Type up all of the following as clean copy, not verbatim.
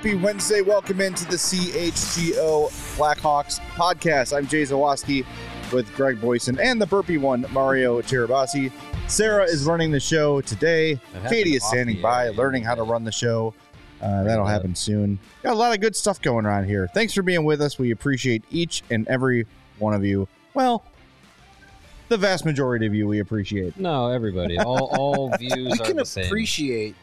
Happy Wednesday. Welcome into the CHGO Blackhawks podcast. I'm Jay Zawoski with Greg Boyson and the burpy one, Mario Tirabassi. Sarah is running the show today. Katie is standing by, learning how to run the show. That'll happen soon. Got a lot of good stuff going on here. Thanks for being with us. We appreciate each and every one of you. Well, the vast majority of you we appreciate. No, everybody. All views are the same. You can appreciate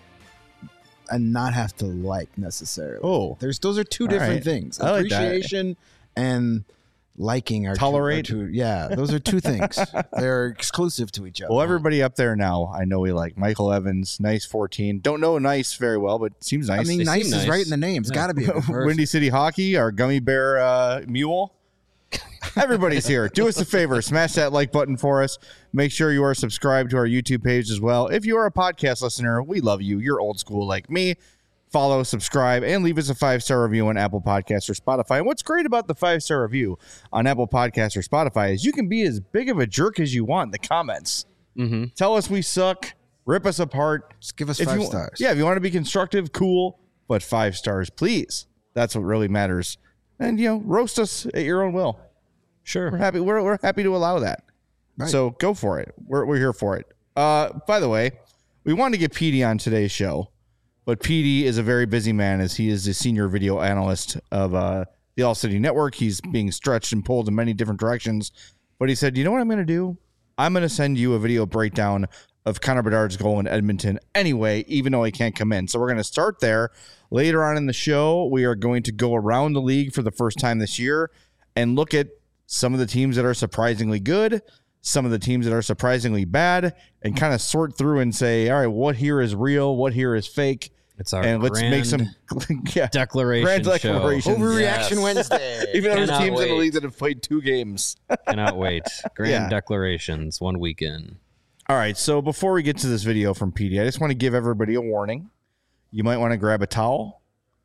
and not have to like necessarily. Oh. Those are two different things. I like that. Appreciation and liking are Tolerate? two, those are two things. They're exclusive to each other. Well, everybody up there now, I know we like Michael Evans, Nice 14. Don't know Nice very well, but seems nice. I mean, They nice seem is nice. right in the name. It's got to be a good person. Windy City Hockey, our gummy bear mule. Everybody's here. Do us a favor. Smash that like button for us. Make sure you are subscribed to our YouTube page as well. If you are a podcast listener, we love you. You're old school like me. Follow, subscribe, and leave us a 5-star review on Apple Podcasts or Spotify. And what's great about the 5-star review on Apple Podcasts or Spotify is you can be as big of a jerk as you want in the comments. Mm-hmm. Tell us we suck. Rip us apart. Just give us If 5 you- stars. Yeah, if you want to be constructive, cool, but 5 stars, please. That's what really matters. And, roast us at your own will. Sure. We're happy to allow that. Right. So go for it. We're here for it. By the way, we wanted to get Petey on today's show, but Petey is a very busy man as he is the senior video analyst of the All City Network. He's being stretched and pulled in many different directions. But he said, you know what I'm going to do? I'm going to send you a video breakdown of Connor Bedard's goal in Edmonton anyway, even though he can't come in. So we're going to start there. Later on in the show, we are going to go around the league for the first time this year and look at some of the teams that are surprisingly good, some of the teams that are surprisingly bad, and kind of sort through and say, all right, what here is real, what here is fake, It's our and let's make some declaration grand declarations. Overreaction Yes. Wednesday. Even though there's Cannot teams in the wait. league that have played 2 games. Cannot wait. Grand Yeah. declarations, 1 weekend. All right, so before we get to this video from PD, I just want to give everybody a warning. You might want to grab a towel,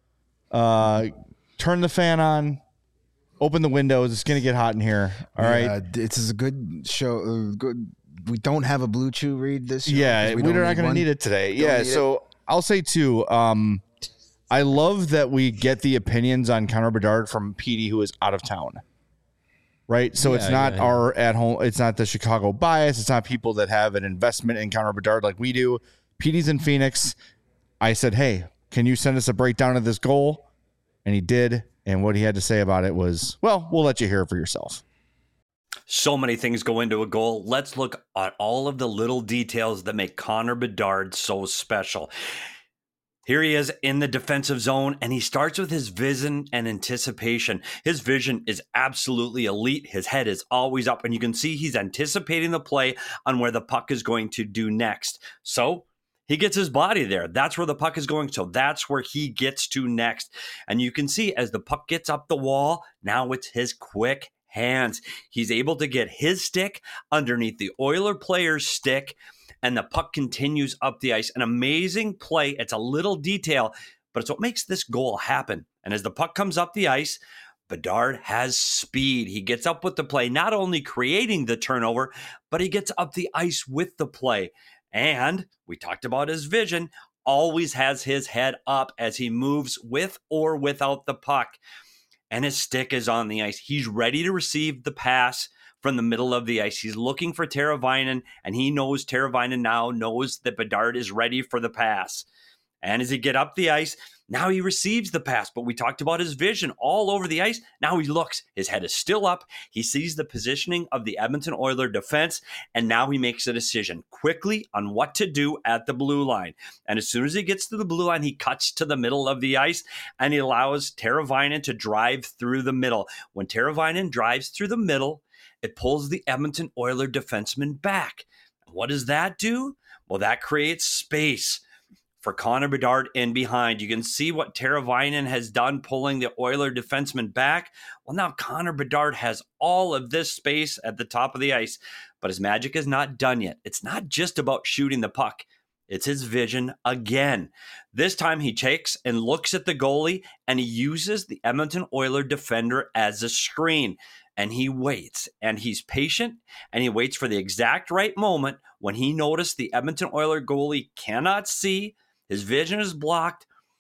turn the fan on, open the windows. It's going to get hot in here. All right. This is a good show. Good. We don't have a Blue Chew read this show. Yeah, 'cause we're don't not going to one. need it today. Don't Yeah, need so I'll say too, I love that we get the opinions on Connor Bedard from PD, who is out of town. Right? So it's Yeah, not yeah. our at home, it's not the Chicago bias. It's not people that have an investment in Connor Bedard like we do. PD's in Phoenix. I said, hey, can you send us a breakdown of this goal? And he did. And what he had to say about it was, well, we'll let you hear it for yourself. So many things go into a goal. Let's look at all of the little details that make Connor Bedard so special. Here he is in the defensive zone, and he starts with his vision and anticipation. His vision is absolutely elite. His head is always up, and you can see he's anticipating the play on where the puck is going to do next. So he gets his body there. That's where the puck is going. So that's where he gets to next. And you can see as the puck gets up the wall, now it's his quick hands. He's able to get his stick underneath the Oiler player's stick, and the puck continues up the ice. An amazing play. It's a little detail, but it's what makes this goal happen. And as the puck comes up the ice, Bedard has speed. He gets up with the play, not only creating the turnover, but he gets up the ice with the play. And we talked about his vision, always has his head up as he moves with or without the puck. And his stick is on the ice. He's ready to receive the pass from the middle of the ice. He's looking for Teravainen, and he knows Teravainen now knows that Bedard is ready for the pass. And as he get up the ice, now he receives the pass. But we talked about his vision all over the ice. Now he looks. His head is still up. He sees the positioning of the Edmonton Oilers defense, and now he makes a decision quickly on what to do at the blue line. And as soon as he gets to the blue line, he cuts to the middle of the ice, and he allows Teravainen to drive through the middle. When Teravainen drives through the middle, it pulls the Edmonton Oilers defenseman back. What does that do? Well, that creates space for Connor Bedard in behind. You can see what Teravainen has done pulling the Oilers defenseman back. Well, now Connor Bedard has all of this space at the top of the ice, but his magic is not done yet. It's not just about shooting the puck. It's his vision again. This time he takes and looks at the goalie, and he uses the Edmonton Oilers defender as a screen. And he waits, and he's patient, and he waits for the exact right moment when he noticed the Edmonton Oilers goalie cannot see, his vision is blocked,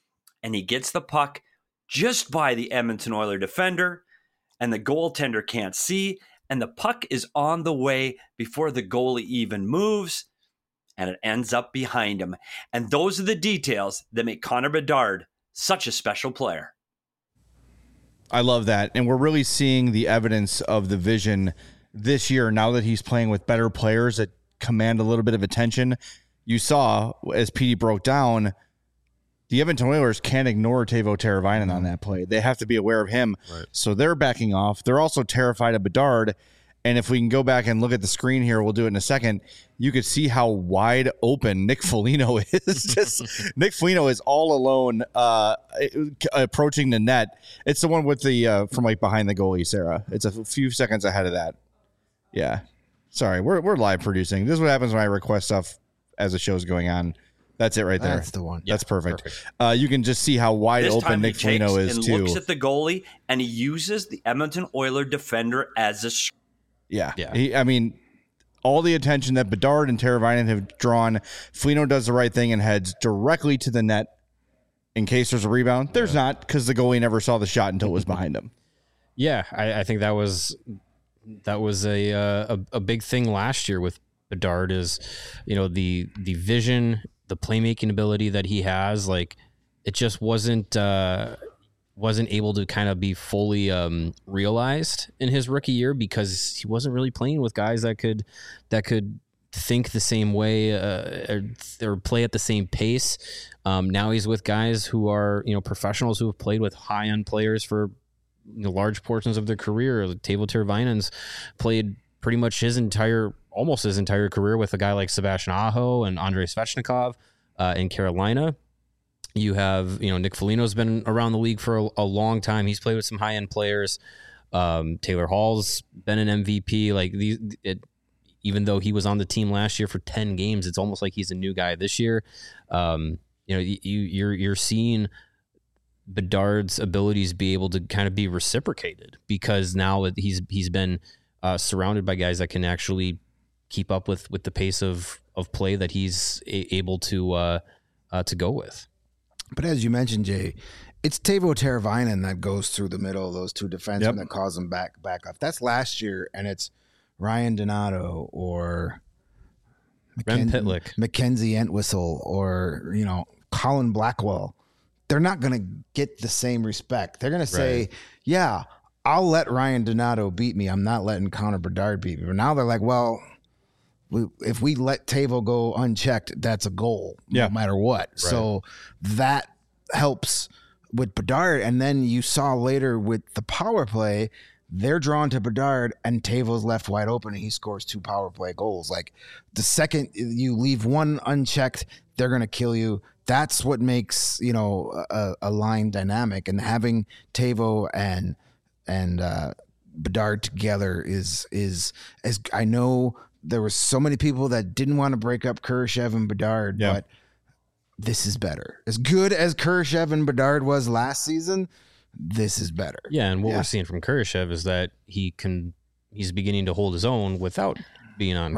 and he gets the puck just by the Edmonton Oilers defender, and the goaltender can't see, and the puck is on the way before the goalie even moves, and it ends up behind him. And those are the details that make Connor Bedard such a special player. I love that. And we're really seeing the evidence of the vision this year now that he's playing with better players that command a little bit of attention. You saw, as PD broke down, the Edmonton Oilers can't ignore Teuvo Teravainen on that play. They have to be aware of him. Right. So they're backing off. They're also terrified of Bedard. And if we can go back and look at the screen here, we'll do it in a second. You could see how wide open Nick Foligno is. Nick Foligno is all alone approaching the net. It's the one with the from like behind the goalie, Sarah. It's a few seconds ahead of that. Yeah. Sorry, we're live producing. This is what happens when I request stuff as the show's going on. That's it right there. That's the one. That's perfect. You can just see how wide This open time Nick he takes Foligno is and too. looks at the goalie, and he uses the Edmonton Oilers defender as a Yeah. Yeah. I mean, all the attention that Bedard and Teravainen have drawn, Foligno does the right thing and heads directly to the net in case there's a rebound. There's not, because the goalie never saw the shot until it was behind him. Yeah, I think that was a big thing last year with Bedard is, the vision, the playmaking ability that he has. Like, it just wasn't able to kind of be fully realized in his rookie year because he wasn't really playing with guys that could think the same way or play at the same pace. Now he's with guys who are professionals who have played with high end players for large portions of their career. Teuvo Teravainen's played pretty much almost his entire career with a guy like Sebastian Aho and Andrei Svechnikov in Carolina. You have, Nick Foligno's been around the league for a long time. He's played with some high-end players. Taylor Hall's been an MVP. Even though he was on the team last year for 10 games, it's almost like he's a new guy this year. You're seeing Bedard's abilities be able to kind of be reciprocated because now he's been surrounded by guys that can actually keep up with the pace of play that he's able to go with. But as you mentioned, Jay, it's Teuvo Teravainen that goes through the middle of those two defensemen that cause them back off. That's last year, and it's Ryan Donato or Rem Pitlick, Mackenzie Entwistle, or Colin Blackwell. They're not going to get the same respect. They're going to say, "Yeah, I'll let Ryan Donato beat me. I'm not letting Connor Bedard beat me." But now they're like, "Well, if we let Teuvo go unchecked, that's a goal, no matter what." Right. So that helps with Bedard. And then you saw later with the power play, they're drawn to Bedard and Teuvo's left wide open and he scores 2 power play goals. Like the second you leave one unchecked, they're going to kill you. That's what makes, a line dynamic, and having Teuvo and Bedard together is as I know there were so many people that didn't want to break up Kurashev and Bedard, but this is better. As good as Kurashev and Bedard was last season, this is better. Yeah, and what we're seeing from Kurashev is that he's beginning to hold his own without being on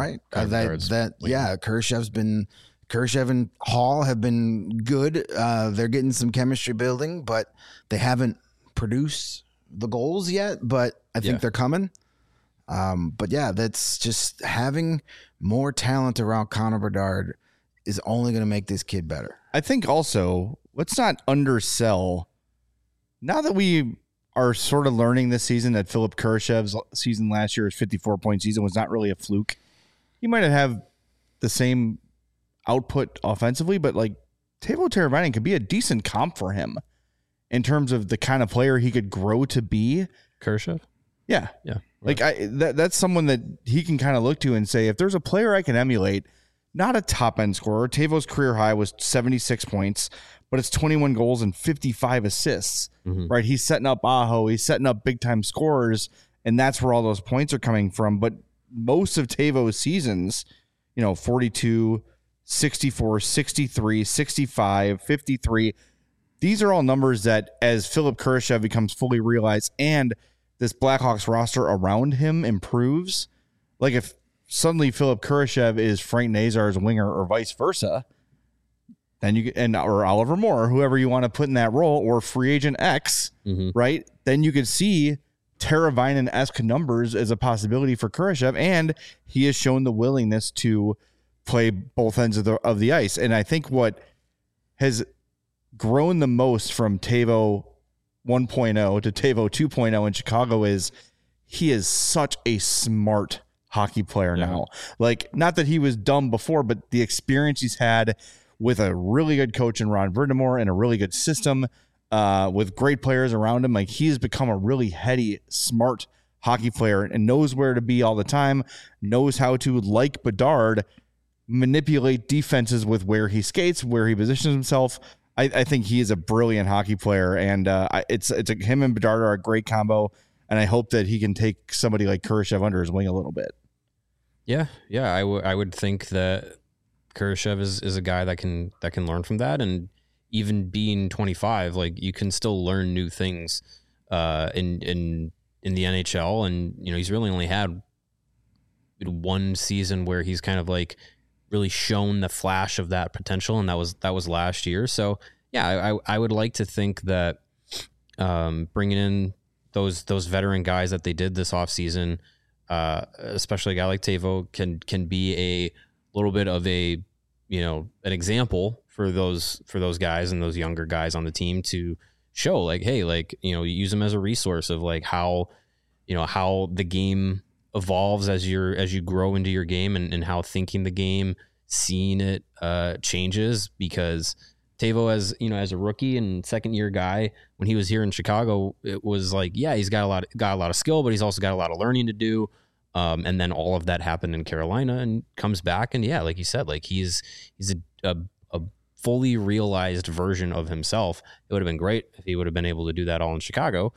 Kurashev and Hall have been good. They're getting some chemistry building, but they haven't produced the goals yet, but I think they're coming. But that's just having more talent around Connor Bedard is only going to make this kid better. I think also, let's not undersell, now that we are sort of learning this season that Philip Kurashev's season last year, his 54-point season, was not really a fluke. He might have the same output offensively, but like Teuvo Teravainen could be a decent comp for him in terms of the kind of player he could grow to be. Kurashev? Yeah. Yeah. Like that's someone that he can kind of look to and say, if there's a player I can emulate, not a top end scorer. Teuvo's career high was 76 points, but it's 21 goals and 55 assists, right? He's setting up Aho. He's setting up big time scorers, and that's where all those points are coming from. But most of Teuvo's seasons, 42, 64, 63, 65, 53, these are all numbers that as Philip Kurashev becomes fully realized and this Blackhawks roster around him improves, like if suddenly Philip Kurashev is Frank Nazar's winger or vice versa, then or Oliver Moore, whoever you want to put in that role, or free agent X, right? Then you could see Teravainen-esque numbers as a possibility for Kurashev, and he has shown the willingness to play both ends of the ice. And I think what has grown the most from Teuvo 1.0 to Teuvo 2.0 in Chicago is he is such a smart hockey player now. Like, not that he was dumb before, but the experience he's had with a really good coach in Ron Verdemore and a really good system with great players around him. Like, he's become a really heady, smart hockey player and knows where to be all the time, knows how to, like Bedard, manipulate defenses with where he skates, where he positions himself. I think he is a brilliant hockey player, and him and Bedard are a great combo, and I hope that he can take somebody like Kurashev under his wing a little bit. Yeah, I would think that Kurashev is a guy that can learn from that, and even being 25, like, you can still learn new things in the NHL, and he's really only had one season where he's kind of like really shown the flash of that potential, and that was last year. So yeah, I would like to think that bringing in those veteran guys that they did this offseason, especially a guy like Teuvo, can be a little bit of a an example for those guys and those younger guys on the team to show, like, hey, like, use them as a resource of like how the game evolves as you grow into your game, and how thinking the game, seeing it changes. Because Teuvo, as a rookie and second year guy, when he was here in Chicago, it was like, yeah, he's got a lot of skill, but he's also got a lot of learning to do. And then all of that happened in Carolina, and comes back, and yeah, like you said, like he's a fully realized version of himself. It would have been great if he would have been able to do that all in Chicago.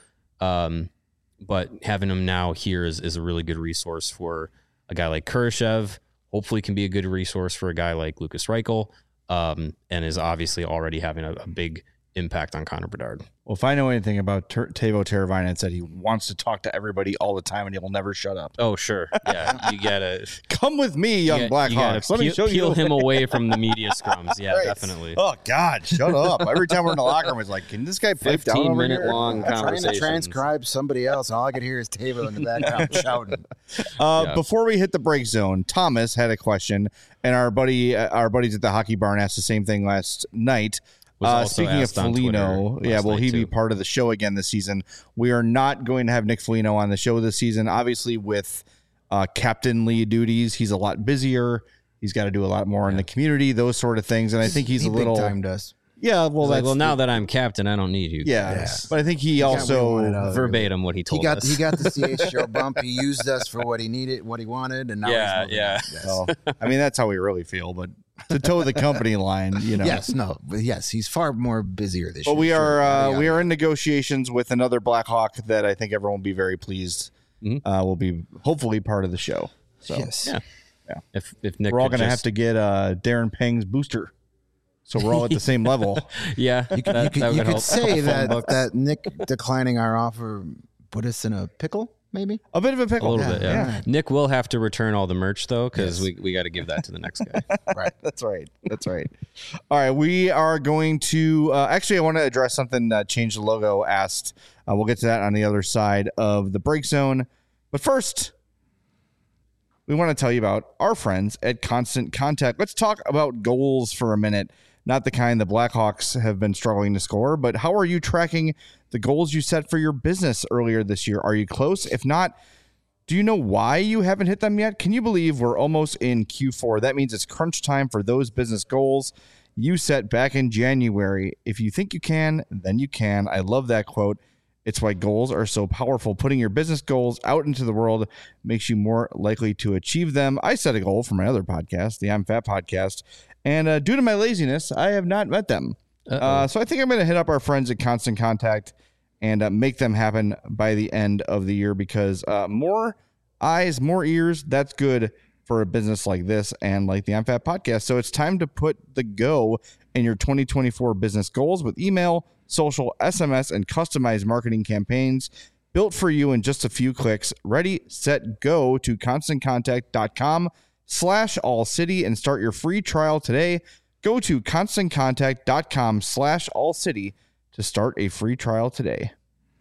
But having him now here is a really good resource for a guy like Kurashev. Hopefully can be a good resource for a guy like Lucas Reichel, and is obviously already having a big impact on Connor Bedard. Well, if I know anything about Teuvo Teravainen, it said he wants to talk to everybody all the time, and he will never shut up. Oh, sure. Yeah, you gotta come with me, young Blackhawks. Let me show you. Peel him away from the media scrums. Yeah, right. Definitely. Oh God, shut up! Every time we're in the locker room, it's like, can this guy pipe down over here? 15-minute-long conversation. Trying to transcribe somebody else, and all I could hear is Teuvo in the background shouting. Before we hit the break zone, Thomas had a question, and our buddies at the Hockey Barn asked the same thing last night. Speaking of Foligno, will he be part of the show again this season? We are not going to have Nick Foligno on the show this season. Obviously, with captainly duties, he's a lot busier. He's got to do a lot more in the community, those sort of things. And I think he's a little timed us. Yeah, well, now that I'm captain, I don't need you. Yeah, but I think he also verbatim what he told us. He got the CHGO bump. He used us for what he needed, what he wanted, and now he's moving on. Well, I mean, that's how we really feel, but to toe the company line, Yes, he's far more busier this year. But we are in negotiations with another Blackhawk that I think everyone will be very pleased will be hopefully part of the show. So yes, If Nick, we're all going to have to get Darren Pang's booster, so we're all at the same level. Yeah, you could say that Nick declining our offer put us in a pickle. Maybe a bit of a pickle. A little bit, yeah. Nick will have to return all the merch though, because we got to give that to the next guy. Right. That's right. All right, we are going to actually, I want to address something that Change the Logo asked. We'll get to that on the other side of the break zone, but first, we want to tell you about our friends at Constant Contact. Let's talk about goals for a minute. Not the kind the Blackhawks have been struggling to score, but how are you tracking the goals you set for your business earlier this year? Are you close? If not, do you know why you haven't hit them yet? Can you believe we're almost in Q4? That means it's crunch time for those business goals you set back in January. If you think you can, then you can. I love that quote. It's why goals are so powerful. Putting your business goals out into the world makes you more likely to achieve them. I set a goal for my other podcast, the I'm Fat podcast, and due to my laziness, I have not met them. So I think I'm going to hit up our friends at Constant Contact and make them happen by the end of the year, because more eyes, more ears, that's good for a business like this and like the I'm Fat podcast. So it's time to put the go in your 2024 business goals with email, social, SMS, and customized marketing campaigns built for you in just a few clicks. Ready, set, go to constantcontact.com/allcity and start your free trial today. Go to constantcontact.com/allcity to start a free trial today.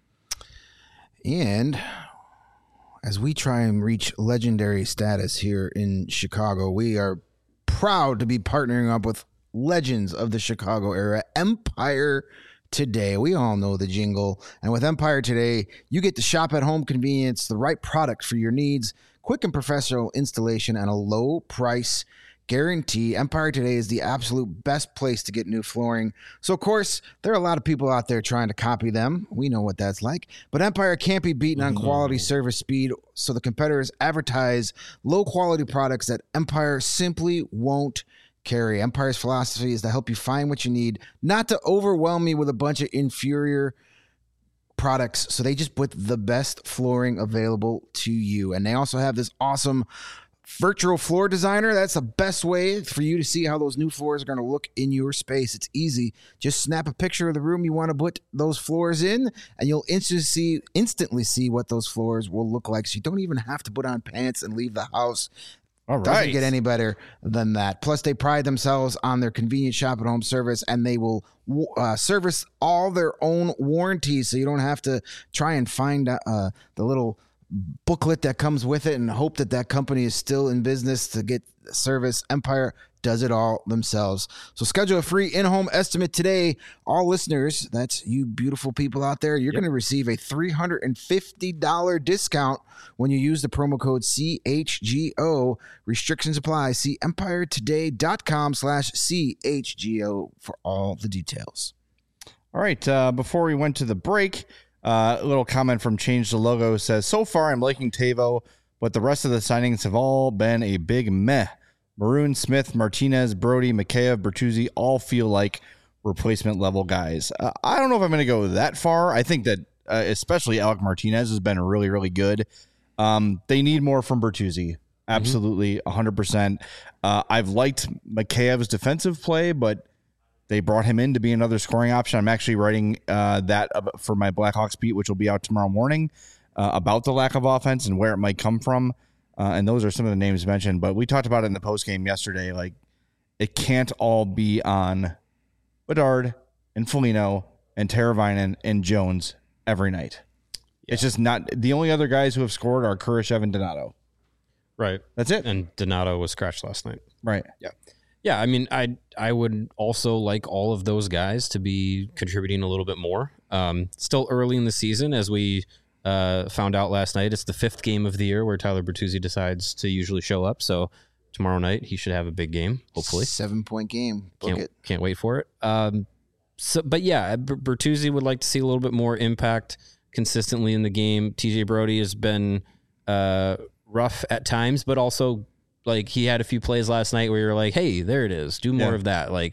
And as we try and reach legendary status here in Chicago, we are proud to be partnering up with legends of the Chicago era, Empire Today. We all know the jingle. And with Empire Today, you get to shop at home convenience, the right product for your needs, quick and professional installation, and a low price guarantee. Empire Today is the absolute best place to get new flooring. So, of course, there are a lot of people out there trying to copy them. We know what that's like. But Empire can't be beaten on quality, service, speed. So the competitors advertise low-quality products that Empire simply won't carry. Empire's philosophy is to help you find what you need, not to overwhelm you with a bunch of inferior products. So they just put the best flooring available to you. And they also have this awesome virtual floor designer. That's the best way for you to see how those new floors are going to look in your space. It's easy. Just snap a picture of the room you want to put those floors in, and you'll instantly see what those floors will look like. So you don't even have to put on pants and leave the house. All right. Doesn't get any better than that. Plus, they pride themselves on their convenient shop at home service, and they will service all their own warranties, so you don't have to try and find the little booklet that comes with it and hope that that company is still in business to get service. Empire does it all themselves. So schedule a free in-home estimate today. All listeners, that's you beautiful people out there, you're going to receive a $350 discount when you use the promo code CHGO. Restrictions apply. See empiretoday.com/CHGO for all the details. All right. Before we went to the break, a little comment from Change the Logo says, so far I'm liking Tavo, but the rest of the signings have all been a big meh. Maroon, Smith, Martinez, Brody, Mikheyev, Bertuzzi all feel like replacement level guys. I don't know if I'm going to go that far. I think that especially Alec Martinez has been really, really good. They need more from Bertuzzi. Absolutely, 100%. I've liked Mikheyev's defensive play, but they brought him in to be another scoring option. I'm actually writing that for my Blackhawks beat, which will be out tomorrow morning, about the lack of offense and where it might come from. And those are some of the names mentioned. But we talked about it in the postgame yesterday. Like, it can't all be on Bedard and Foligno and Teravainen and Jones every night. Yeah. It's just not. The only other guys who have scored are Kurashev and Donato. Right. That's it. And Donato was scratched last night. Right. Yeah. Yeah, I mean, I would also like all of those guys to be contributing a little bit more. Still early in the season, as we found out last night. It's the 5th game of the year where Tyler Bertuzzi decides to usually show up. So tomorrow night he should have a big game, hopefully. 7-point game. Can't wait for it. But yeah, Bertuzzi would like to see a little bit more impact consistently in the game. TJ Brody has been rough at times, but also, like, he had a few plays last night where you're like, hey, there it is. Do more of that. Like,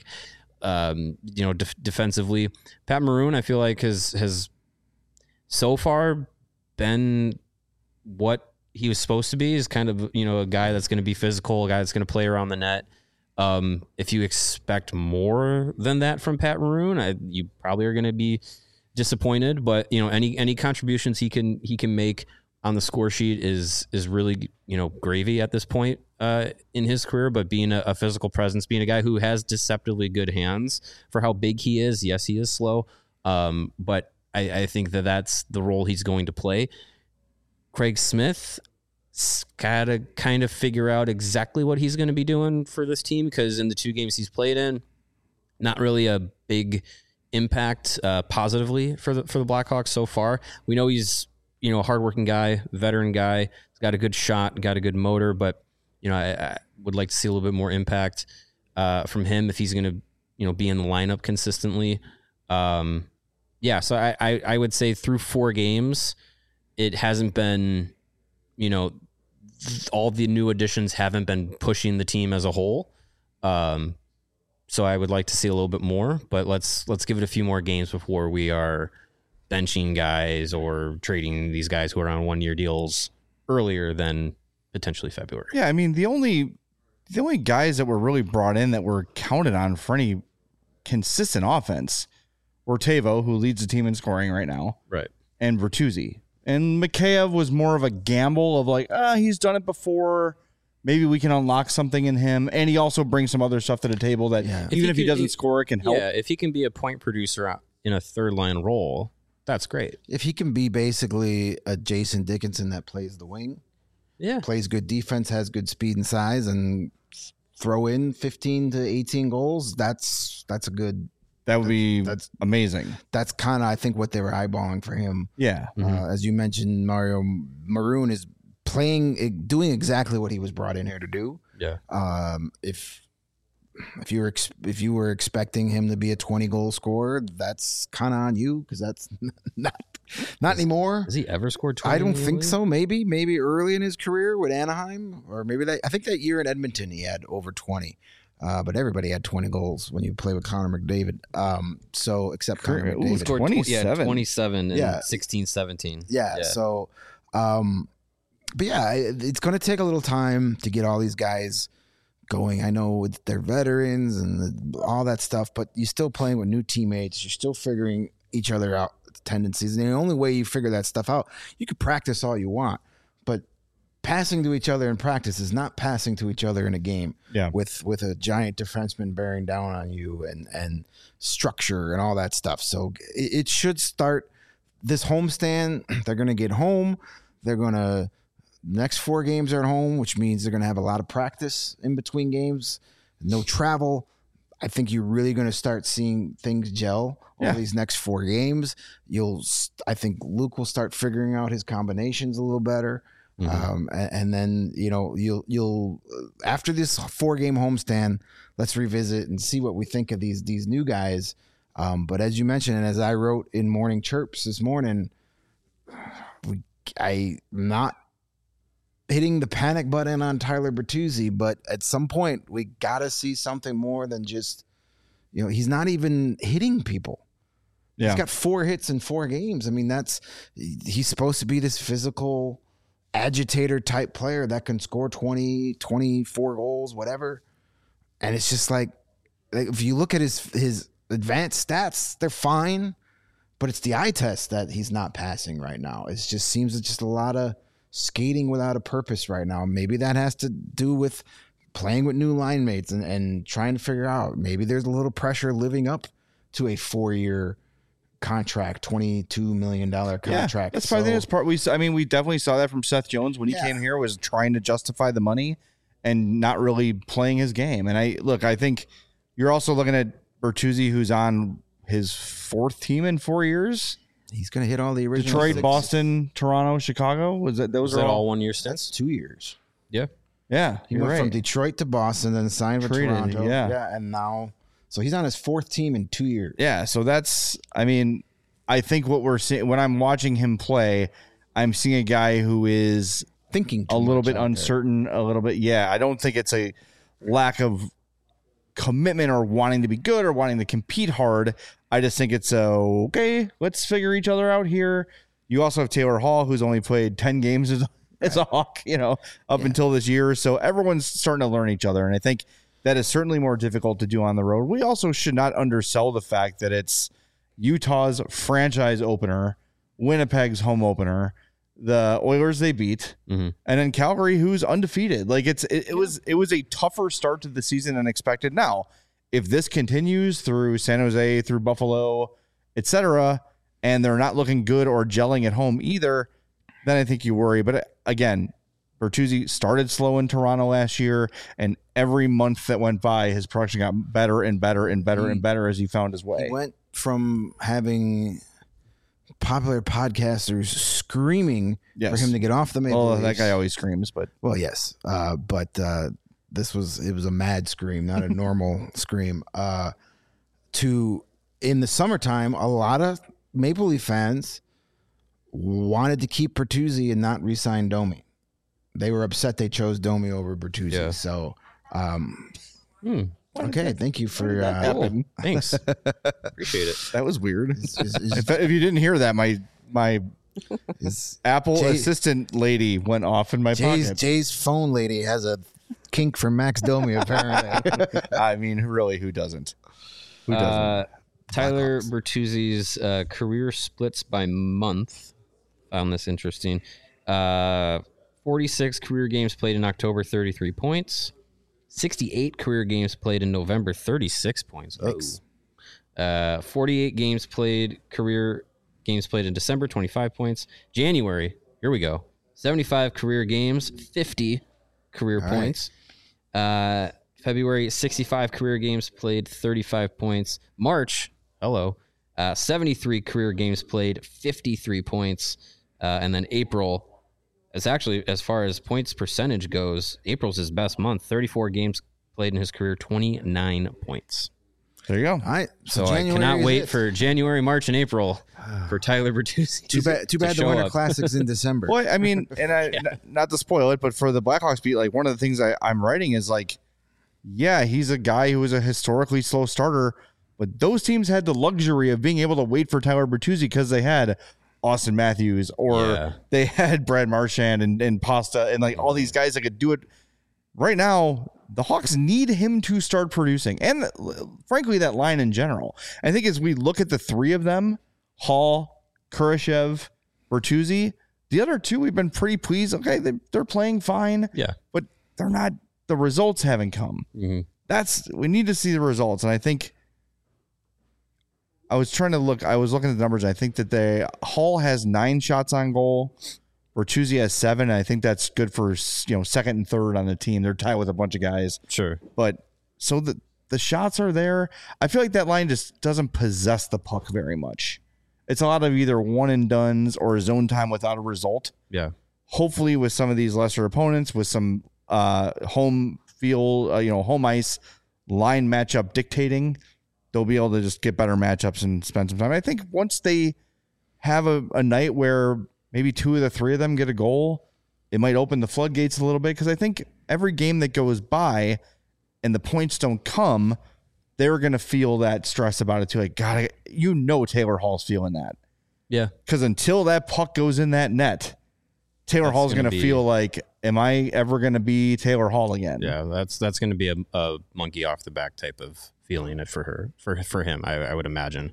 defensively. Pat Maroon, I feel like, has so far been what he was supposed to be, is kind of, a guy that's going to be physical, a guy that's going to play around the net. If you expect more than that from Pat Maroon, you probably are going to be disappointed, but any contributions he can make on the score sheet is really, gravy at this point in his career. But being a physical presence, being a guy who has deceptively good hands for how big he is. Yes, he is slow. But I think that's the role he's going to play. Craig Smith got to kind of figure out exactly what he's going to be doing for this team, because in the 2 games he's played in, not really a big impact positively for the Blackhawks so far. We know he's a hardworking guy, veteran guy. He's got a good shot, got a good motor, but I would like to see a little bit more impact from him if he's going to be in the lineup consistently. So I would say through 4 games, it hasn't been, all the new additions haven't been pushing the team as a whole. So I would like to see a little bit more, but let's give it a few more games before we are benching guys or trading these guys who are on 1-year deals earlier than potentially February. Yeah, I mean, the only guys that were really brought in that were counted on for any consistent offense were Tavo, who leads the team in scoring right now, right, and Bertuzzi. And Mikheyev was more of a gamble of like, he's done it before. maybe we can unlock something in him. And he also brings some other stuff to the table that even if he doesn't score, it can help. Yeah, if he can be a point producer in a third line role, that's great. If he can be basically a Jason Dickinson that plays the wing, plays good defense, has good speed and size, and throw in 15 to 18 goals, that's a good. That would be amazing. That's kind of, I think, what they were eyeballing for him. Yeah. As you mentioned, Mario Maroon is doing exactly what he was brought in here to do. Yeah. If you were expecting him to be a 20-goal scorer, that's kind of on you, because that's not anymore. Has he ever scored 20? I don't think so. Maybe early in his career with Anaheim, or maybe I think that year in Edmonton he had over 20. But everybody had 20 goals when you play with Connor McDavid. So except Connor McDavid. He scored 27. 27 in 16-17. Yeah. So, but yeah, it's going to take a little time to get all these guys going. I know they're veterans and all that stuff, but you're still playing with new teammates. You're still figuring each other out tendencies. And the only way you figure that stuff out, you could practice all you want, but passing to each other in practice is not passing to each other in a game. Yeah. With a giant defenseman bearing down on you and structure and all that stuff. So it should start this homestand. They're going to get home. They're going to next 4 games are at home, which means they're going to have a lot of practice in between games. No travel. I think you're really going to start seeing things gel over these next 4 games. I think Luke will start figuring out his combinations a little better. And then, you'll after this 4-game homestand, let's revisit and see what we think of these new guys. But as you mentioned, and as I wrote in Morning Chirps this morning, I'm not hitting the panic button on Tyler Bertuzzi, but at some point we got to see something more than just, he's not even hitting people. Yeah. He's got 4 hits in 4 games. I mean, he's supposed to be this physical agitator type player that can score 20, 24 goals, whatever. And it's just like if you look at his advanced stats, they're fine, but it's the eye test that he's not passing right now. It just seems it's just a lot of skating without a purpose right now. Maybe that has to do with playing with new line mates and trying to figure out, maybe there's a little pressure living up to a 4-year contract, $22 million contract. Yeah, that's probably the part. We definitely saw that from Seth Jones when he came here, was trying to justify the money and not really playing his game. And I think you're also looking at Bertuzzi, who's on his 4th team in 4 years. He's going to hit all the original Detroit, 6. Boston, Toronto, Chicago. Was that all 1 year stints? That's 2 years. Yeah. Yeah. He went from Detroit to Boston, then signed with Toronto. Yeah. And now, so he's on his 4th team in 2 years. Yeah. So I think what we're seeing when I'm watching him play, I'm seeing a guy who is thinking a little bit uncertain, a little bit. Yeah. I don't think it's a lack of commitment or wanting to be good or wanting to compete hard. I just think it's okay, let's figure each other out here. You also have Taylor Hall, who's only played 10 games as a Hawk, up until this year. So everyone's starting to learn each other. And I think that is certainly more difficult to do on the road. We also should not undersell the fact that it's Utah's franchise opener, Winnipeg's home opener, the Oilers they beat, and then Calgary, who's undefeated. Like it was a tougher start to the season than expected. Now, if this continues through San Jose, through Buffalo, etc., and they're not looking good or gelling at home either, then I think you worry. But again, Bertuzzi started slow in Toronto last year, and every month that went by, his production got better and better and better and better as he found his way. He went from having popular podcasters screaming for him to get off the Maple Leafs. That guy always screams, but yes. But it was a mad scream, not a normal scream. To in the summertime, a lot of Maple Leaf fans wanted to keep Bertuzzi and not re-sign Domi. They were upset they chose Domi over Bertuzzi. Yeah. So, okay, thank you for Thanks. Appreciate it. That was weird. If you didn't hear that, my Apple assistant lady went off in my pocket. Jay's phone lady has a kink for Max Domi, apparently. I mean, really, who doesn't? Who doesn't? Tyler Bertuzzi's career splits by month. Found this interesting. 46 career games played in October, 33 points. 68 career games played in November, 36 points. 48 career games played in December, 25 points. January, here we go. 75 career games, 50 career points. February, 65 career games played, 35 points. March, 73 career games played, 53 points. And then April, it's actually, as far as points percentage goes, April's his best month. 34 games played in his career, 29 points. There you go. All right. So I cannot wait for January, March, and April for Tyler Bertuzzi. Too bad the Winter Classic's in December. Well, I mean, and not to spoil it, but for the Blackhawks beat, like one of the things I'm writing is like, yeah, he's a guy who was a historically slow starter, but those teams had the luxury of being able to wait for Tyler Bertuzzi because they had Auston Matthews or they had Brad Marchand and Pasta and like all these guys that could do it. Right now, the Hawks need him to start producing. And frankly, that line in general. I think as we look at the three of them, Hall, Kurashev, Bertuzzi, the other two, we've been pretty pleased. Okay, they're playing fine. Yeah. But they're not, the results haven't come. Mm-hmm. We need to see the results. And I think I was looking at the numbers. And I think that Hall has 9 shots on goal. Bertuzzi has 7. And I think that's good for, second and third on the team. They're tied with a bunch of guys. Sure. But so the shots are there. I feel like that line just doesn't possess the puck very much. It's a lot of either one and dones or zone time without a result. Yeah. Hopefully with some of these lesser opponents, with some home field, home ice line matchup dictating, they'll be able to just get better matchups and spend some time. I think once they have a night where maybe 2 of the 3 of them get a goal, it might open the floodgates a little bit, because I think every game that goes by and the points don't come, they're going to feel that stress about it too. Like, God, Taylor Hall's feeling that. Yeah. Because until that puck goes in that net, Taylor Hall's going to feel like, am I ever going to be Taylor Hall again? Yeah, that's going to be a monkey off the back type of feeling it for him. I would imagine.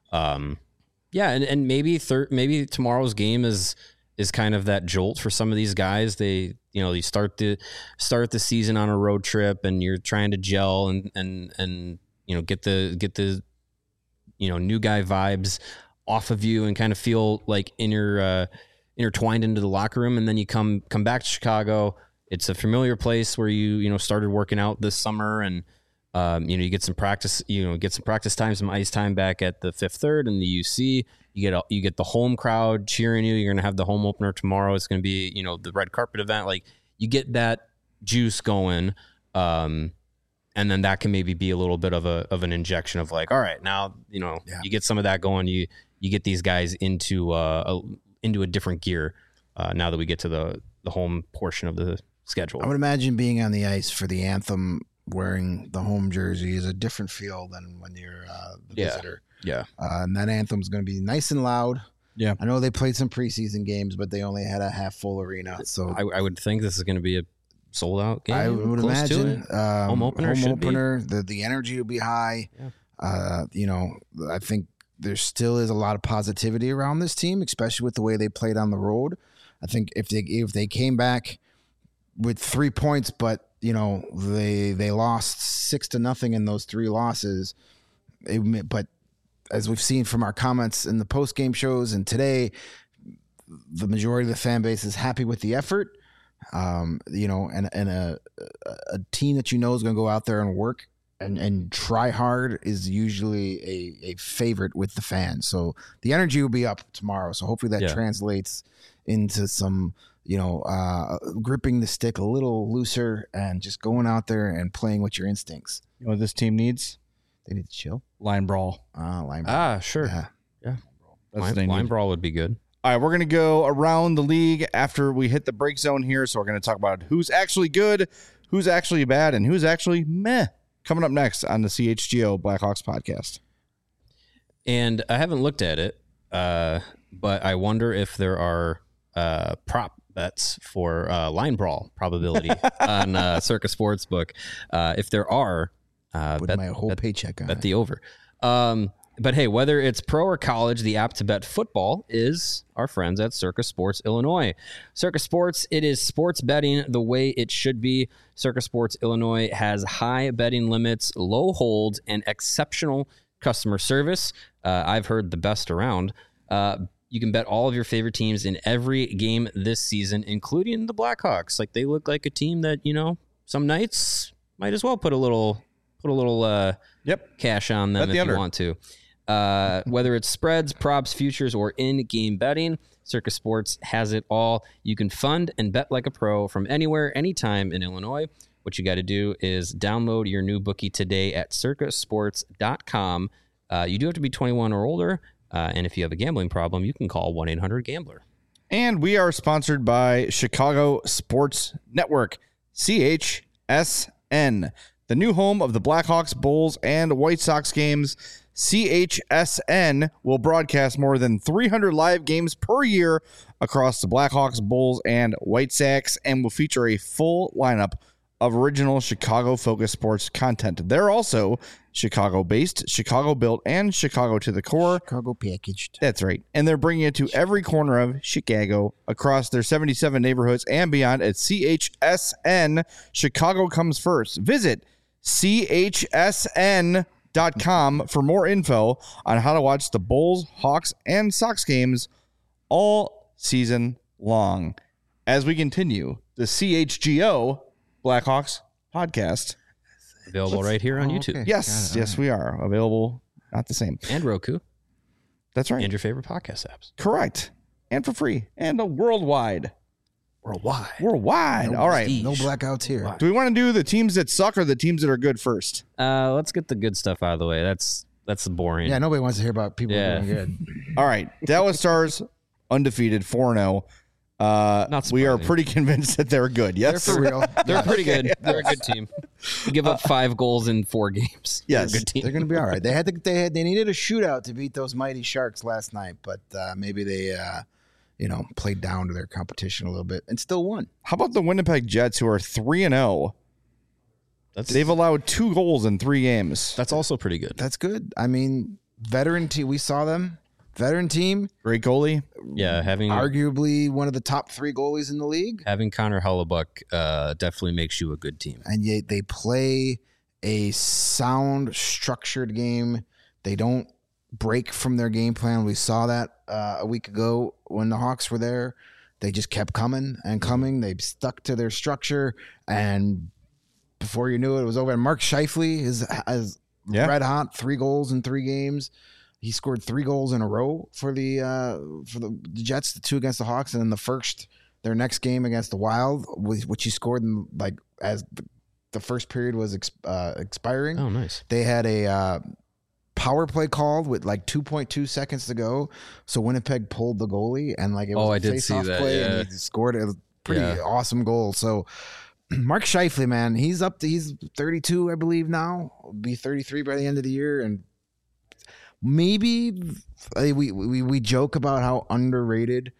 Yeah, and maybe tomorrow's game is kind of that jolt for some of these guys. They start the season on a road trip, and you're trying to gel and get the new guy vibes off of you and kind of feel like intertwined into the locker room. And then you come back to Chicago. It's a familiar place where you started working out this summer, and you get some practice, time, some ice time back at the Fifth Third and the UC. You get the home crowd cheering you. You're going to have the home opener tomorrow. It's going to be, the red carpet event. Like, you get that juice going. And then that can maybe be a little bit of an injection of like, all right, now, you get some of that going. You get these guys into a different gear now that we get to the home portion of the schedule. I would imagine being on the ice for the anthem wearing the home jersey is a different feel than when you're the visitor. Yeah. And that anthem's going to be nice and loud. Yeah. I know they played some preseason games, but they only had a half full arena. So I would think this is going to be a sold out game. I would imagine home opener. The energy will be high. Yeah. I think there still is a lot of positivity around this team, especially with the way they played on the road. I think if they came back with 3 points, but they lost 6-0 in those 3 losses. But as we've seen from our comments in the post game shows and today, the majority of the fan base is happy with the effort. And a team that is going to go out there and work and try hard is usually a favorite with the fans. So the energy will be up tomorrow. So hopefully that translates into some, gripping the stick a little looser and just going out there and playing with your instincts. You know what this team needs? They need to chill. Line brawl. Line brawl. Sure. Yeah. Line brawl would be good. All right, we're going to go around the league after we hit the break zone here. So we're going to talk about who's actually good, who's actually bad, and who's actually meh. Coming up next on the CHGO Blackhawks podcast. And I haven't looked at it, but I wonder if there are prop bets for line brawl probability on Circa Sportsbook. If there are, put my whole paycheck on bet it. the over. But hey, whether it's pro or college, the app to bet football is our friends at Circa Sports Illinois. Circa Sports, it is sports betting the way it should be. Circa Sports Illinois has high betting limits, low holds, and exceptional customer service. I've heard the best around. You can bet all of your favorite teams in every game this season, including the Blackhawks. Like, they look like a team that, some nights might as well put a little cash on them if you want to. Whether it's spreads, props, futures, or in-game betting, Circa Sports has it all. You can fund and bet like a pro from anywhere, anytime in Illinois. What you got to do is download your new bookie today at circasports.com. You do have to be 21 or older, and if you have a gambling problem, you can call 1-800-GAMBLER. And we are sponsored by Chicago Sports Network, CHSN, the new home of the Blackhawks, Bulls, and White Sox games. CHSN will broadcast more than 300 live games per year across the Blackhawks, Bulls, and White Sox, and will feature a full lineup of original Chicago-focused sports content. They're also Chicago-based, Chicago-built, and Chicago to the core. Chicago packaged. That's right. And they're bringing it to every corner of Chicago across their 77 neighborhoods and beyond at CHSN. Chicago comes first. Visit CHSN.com for more info on how to watch the Bulls, Hawks, and Sox games all season long. As we continue the CHGO Blackhawks podcast. Available right here on YouTube. Okay. Yes, we are. Available, not the same. And Roku. That's right. And your favorite podcast apps. Correct. And for free. And worldwide. Worldwide. All right. No blackouts here. Do we want to do the teams that suck or the teams that are good first? Let's get the good stuff out of the way. That's boring. Yeah, nobody wants to hear about people doing good. All right. Dallas Stars, undefeated, 4-0. We are pretty convinced that they're good. Yes, They're for real. They're pretty good. They're a good team. Give up 5 goals in 4 games. Yes. They're a good team. They're going to be all right. They needed a shootout to beat those mighty Sharks last night, but maybe they played down to their competition a little bit and still won. How about the Winnipeg Jets, who are 3-0? They've allowed 2 goals in 3 games. That's also pretty good. That's good. I mean, veteran team. We saw them. Veteran team. Great goalie. Yeah, having arguably one of the top 3 goalies in the league. Having Connor Hellebuyck definitely makes you a good team. And yet they play a sound, structured game. They don't break from their game plan. We saw that a week ago when the Hawks were there. They just kept coming and coming. They stuck to their structure, and before you knew it, it was over. And Mark Scheifele is red hot, 3 goals in 3 games. He scored 3 goals in a row for the Jets, the 2 against the Hawks, and then their next game against the Wild, which he scored in as the first period was expiring. Oh, nice. They had a power play called with 2.2 seconds to go, so Winnipeg pulled the goalie and it was a face-off play, and he scored a pretty awesome goal. So Mark Scheifele, man, he's 32, I believe now. Will be 33 by the end of the year, and maybe we joke about how underrated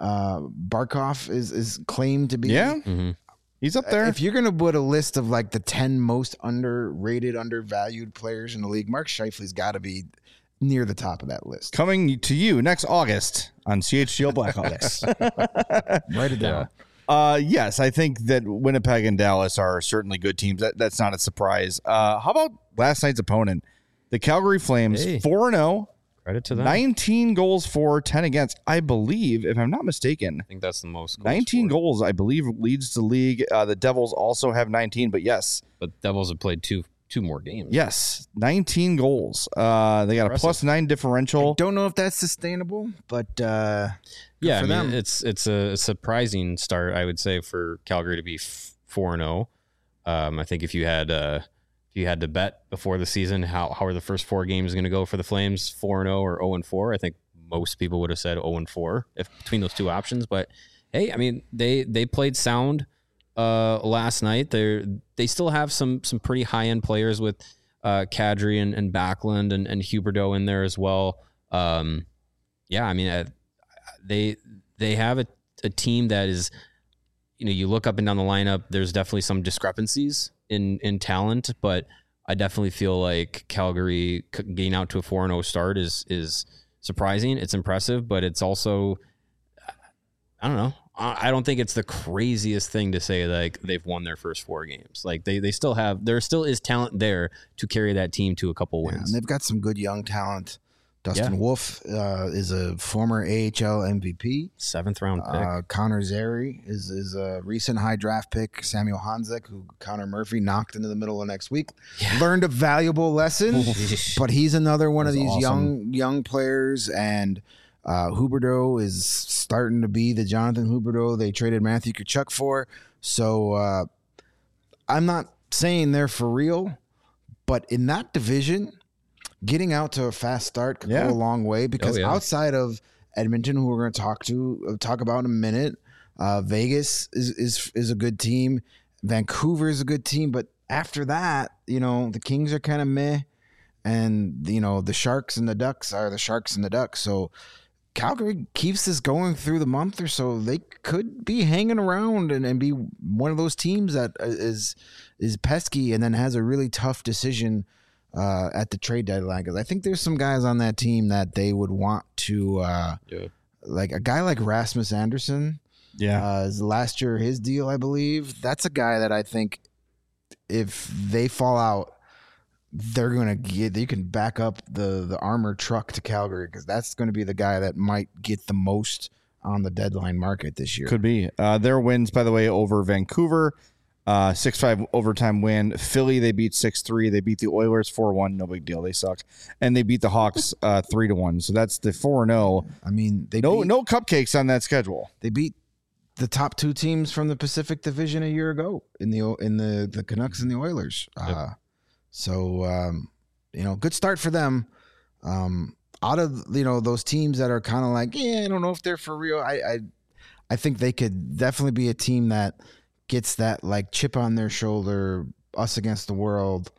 Barkov is claimed to be. Yeah. Mm-hmm. He's up there. If you're going to put a list of the 10 most underrated, undervalued players in the league, Mark Scheifele's got to be near the top of that list. Coming to you next August on CHGO Blackhawks. Write it down. Yes, I think that Winnipeg and Dallas are certainly good teams. That's not a surprise. How about last night's opponent? The Calgary Flames, 4-0. Credit to them. 19 goals for, 10 against. I believe, if I'm not mistaken, I think that's the most goals 19 goals, I believe, leads the league. The Devils also have 19, but yes. But Devils have played two more games. Yes, 19 goals. They got Impressive. a +9 differential. Don't know if that's sustainable, but Yeah, I mean, them. it's a surprising start, I would say, for Calgary to be 4-0. I think if you had to bet before the season how are the first 4 games going to go for the Flames, 4-0 or 0-4, I think most people would have said 0-4 if between those 2 options. But hey, I mean, they played sound last night. They still have some pretty high end players with Kadri and Backlund and Huberdeau in there as well. Yeah, I mean, they have a team that is, you look up and down the lineup, there's definitely some discrepancies in talent, but I definitely feel like Calgary getting out to a 4-0 start is surprising. It's impressive, but it's also, I don't know. I don't think it's the craziest thing to say like they've won their first 4 games. Like there still is talent there to carry that team to a couple wins. And they've got some good young talent. Dustin Wolf is a former AHL MVP. 7th round pick. Connor Zary is a recent high draft pick. Samuel Hanzek, who Connor Murphy knocked into the middle of next week. Yeah. Learned a valuable lesson, but he's another one of these awesome young players. And Huberdeau is starting to be the Jonathan Huberdeau they traded Matthew Tkachuk for. So I'm not saying they're for real, but in that division, getting out to a fast start could go a long way because outside of Edmonton, who we're going to talk about in a minute, Vegas is a good team. Vancouver is a good team, but after that, the Kings are kind of meh, and the Sharks and the Ducks are the Sharks and the Ducks. So Calgary keeps this going through the month or so. They could be hanging around and be one of those teams that is pesky and then has a really tough decision at the trade deadline, because I think there's some guys on that team that they would want to like a guy like Rasmus Anderson. Last year his deal, I believe. That's a guy that I think if they fall out, they're gonna get. You can back up the armored truck to Calgary, because that's going to be the guy that might get the most on the deadline market this year. Could be. Their wins, by the way, over Vancouver. 6-5 overtime win. Philly, they beat 6-3. They beat the Oilers 4-1. No big deal. They suck. And they beat the Hawks 3-1. So that's the 4-0. I mean, no cupcakes on that schedule. They beat the top 2 teams from the Pacific Division a year ago in the Canucks and the Oilers. So good start for them. Out of those teams that are kind of like, I don't know if they're for real. I think they could definitely be a team that gets that like chip on their shoulder, us against the world.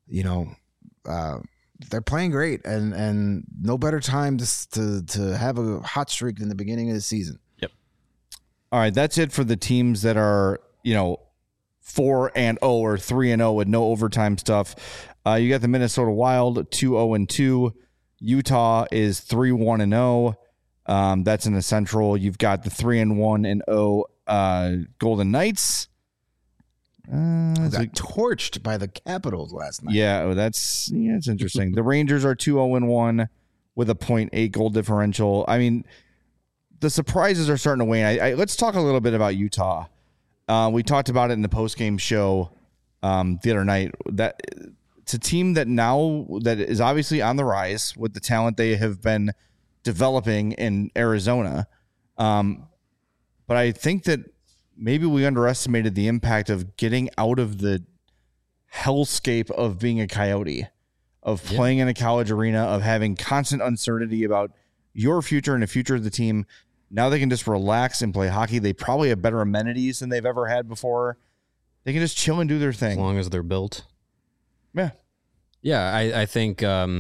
They're playing great, and no better time to have a hot streak than the beginning of the season. Yep. All right, that's it for the teams that are 4-0 or 3-0 with no overtime stuff. You got the Minnesota Wild 2-0-2. Utah is 3-1-0. That's in the Central. You've got the 3-1-0 Golden Knights. Got torched by the Capitals last night. Yeah, it's interesting. The Rangers are 2-0-1 with a 0.8 goal differential. I mean, the surprises are starting to wane. Let's talk a little bit about Utah. We talked about it in the post-game show the other night. That it's a team that is obviously on the rise with the talent they have been developing in Arizona. But I think that maybe we underestimated the impact of getting out of the hellscape of being a Coyote, of playing in a college arena, of having constant uncertainty about your future and the future of the team. Now they can just relax and play hockey. They probably have better amenities than they've ever had before. They can just chill and do their thing. As long as they're built. Yeah. Yeah, I think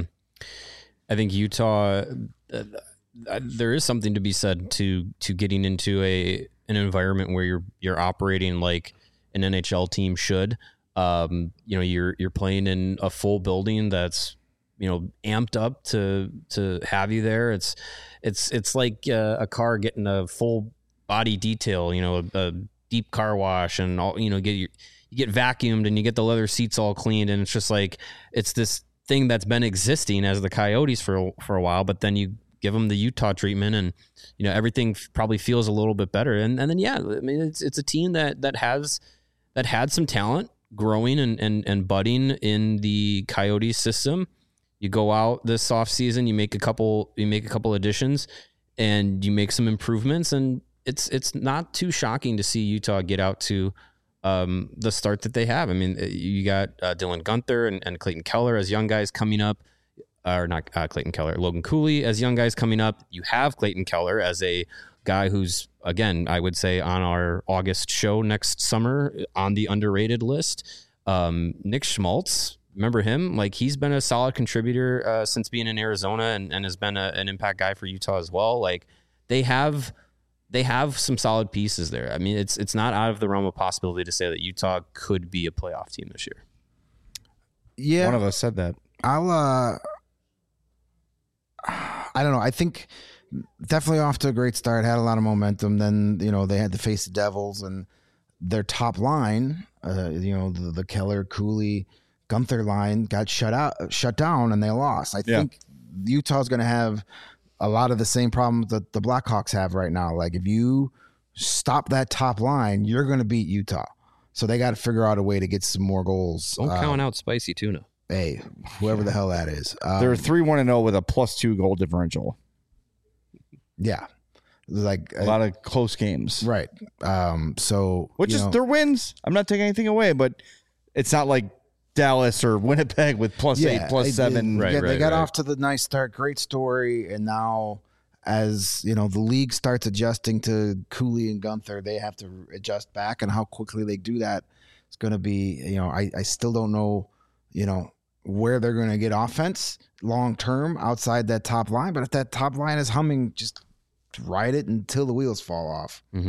Utah, there is something to be said to getting into an environment where you're operating like an NHL team should. You're playing in a full building that's amped up to have you there. It's like a car getting a full body detail, a deep car wash and all, you get vacuumed and you get the leather seats all cleaned, and it's just like it's this thing that's been existing as the Coyotes for a while, but then you give them the Utah treatment, and everything probably feels a little bit better. And then I mean it's a team that had some talent growing and budding in the Coyotes system. You go out this offseason, you make a couple additions, and you make some improvements, and it's not too shocking to see Utah get out to the start that they have. I mean, you got Dylan Guenther and Clayton Keller as young guys coming up. Or not Clayton Keller, Logan Cooley as young guys coming up. You have Clayton Keller as a guy who's, again, I would say on our August show next summer on the underrated list. Nick Schmaltz, remember him? Like, he's been a solid contributor since being in Arizona and has been an impact guy for Utah as well. Like, they have some solid pieces there. I mean, it's not out of the realm of possibility to say that Utah could be a playoff team this year. Yeah. One of us said that. I don't know. I think definitely off to a great start, had a lot of momentum. Then, they had to face the Devils, and their top line, the Keller, Cooley, Gunther line got shut down, and they lost. I think Utah's going to have a lot of the same problems that the Blackhawks have right now. Like, if you stop that top line, you're going to beat Utah. So they got to figure out a way to get some more goals. Don't count out Spicy Tuna. Hey, whoever the hell that is. They're 3-1-0 with a +2 goal differential. Yeah. Like a lot of close games. Right. So which is their wins. I'm not taking anything away, but it's not like Dallas or Winnipeg with +8, +7. They got off to the nice start. Great story. And now as the league starts adjusting to Cooley and Gunther, they have to adjust back, and how quickly they do that is going to be, I still don't know, where they're going to get offense long term outside that top line. But if that top line is humming, just ride it until the wheels fall off. Mm-hmm.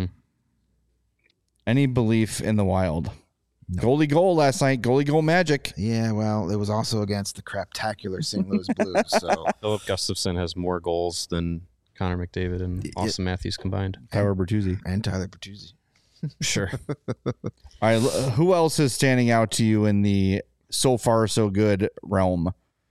Any belief in the Wild? No. Goalie goal last night. Goalie goal magic. Yeah, well, it was also against the craptacular St. Louis Blues. So Philip Gustafson has more goals than Connor McDavid and Austin Matthews combined. Tyler Bertuzzi. And Tyler Bertuzzi. Sure. All right. Who else is standing out to you in the so far so good realm?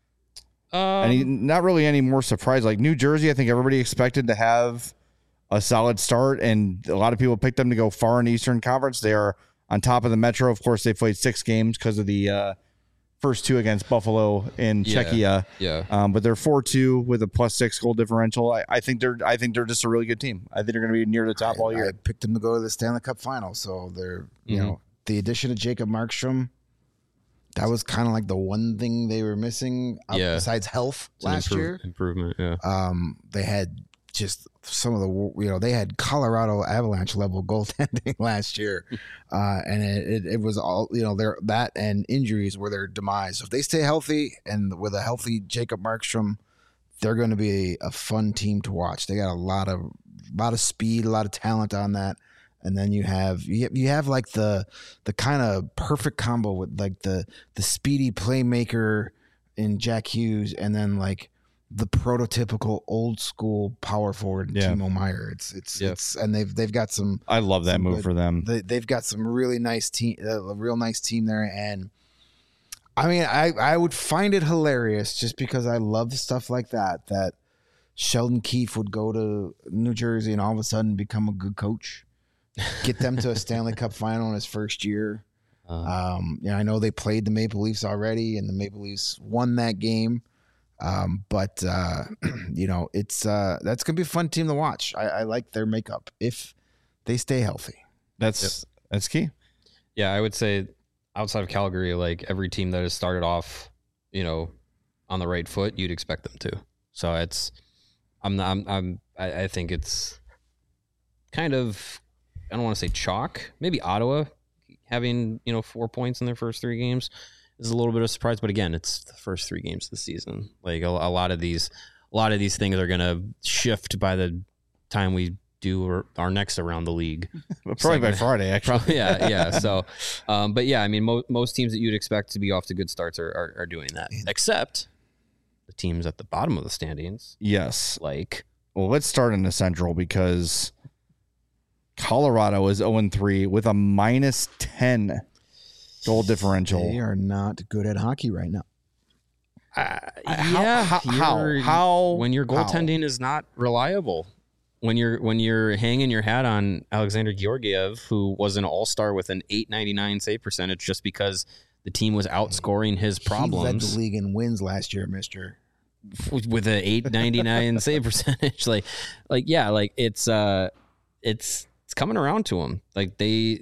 Not really any more surprise. Like New Jersey, I think everybody expected to have a solid start, and a lot of people picked them to go far in the Eastern Conference. They are on top of the Metro. Of course, they played 6 games because of the first 2 against Buffalo in Czechia. Yeah. But they're 4-2 with a +6 goal differential. I think they're just a really good team. I think they're going to be near the top all year. I picked them to go to the Stanley Cup final. So they're, the addition of Jacob Markstrom, that was kind of like the one thing they were missing besides health last year. Improvement, yeah. They had just some of the, they had Colorado Avalanche level goaltending last year. And it was all, that and injuries were their demise. So if they stay healthy and with a healthy Jacob Markstrom, they're going to be a fun team to watch. They got a lot of speed, a lot of talent on that. And then you have like the kind of perfect combo with like the speedy playmaker in Jack Hughes, and then like the prototypical old school power forward Timo Meier. It's and they've got some. I love that move for them. They've got some really nice team, a real nice team there. And I mean, I would find it hilarious just because I love stuff like that Sheldon Keefe would go to New Jersey and all of a sudden become a good coach. Get them to a Stanley Cup final in his first year. I know they played the Maple Leafs already, and the Maple Leafs won that game. But it's that's gonna be a fun team to watch. I like their makeup if they stay healthy. That's key. Yeah, I would say outside of Calgary, like every team that has started off, on the right foot, you'd expect them to. So I think it's kind of, I don't want to say chalk. Maybe Ottawa having 4 points in their first 3 games is a little bit of a surprise, but again, it's the first 3 games of the season. Like a lot of these things are going to shift by the time we do our next around the league. Probably by Friday, actually. Probably, yeah. So, but yeah, I mean, most teams that you'd expect to be off to good starts are doing that, except the teams at the bottom of the standings. Yes. Well, let's start in the Central because Colorado is 0-3 with a -10 goal differential. They are not good at hockey right now. How when your goaltending is not reliable, when you're hanging your hat on Alexander Georgiev, who was an all-star with an .899 save percentage just because the team was outscoring his problems. He led the league in wins last year, mister. With an .899 save percentage. It's coming around to him. Like the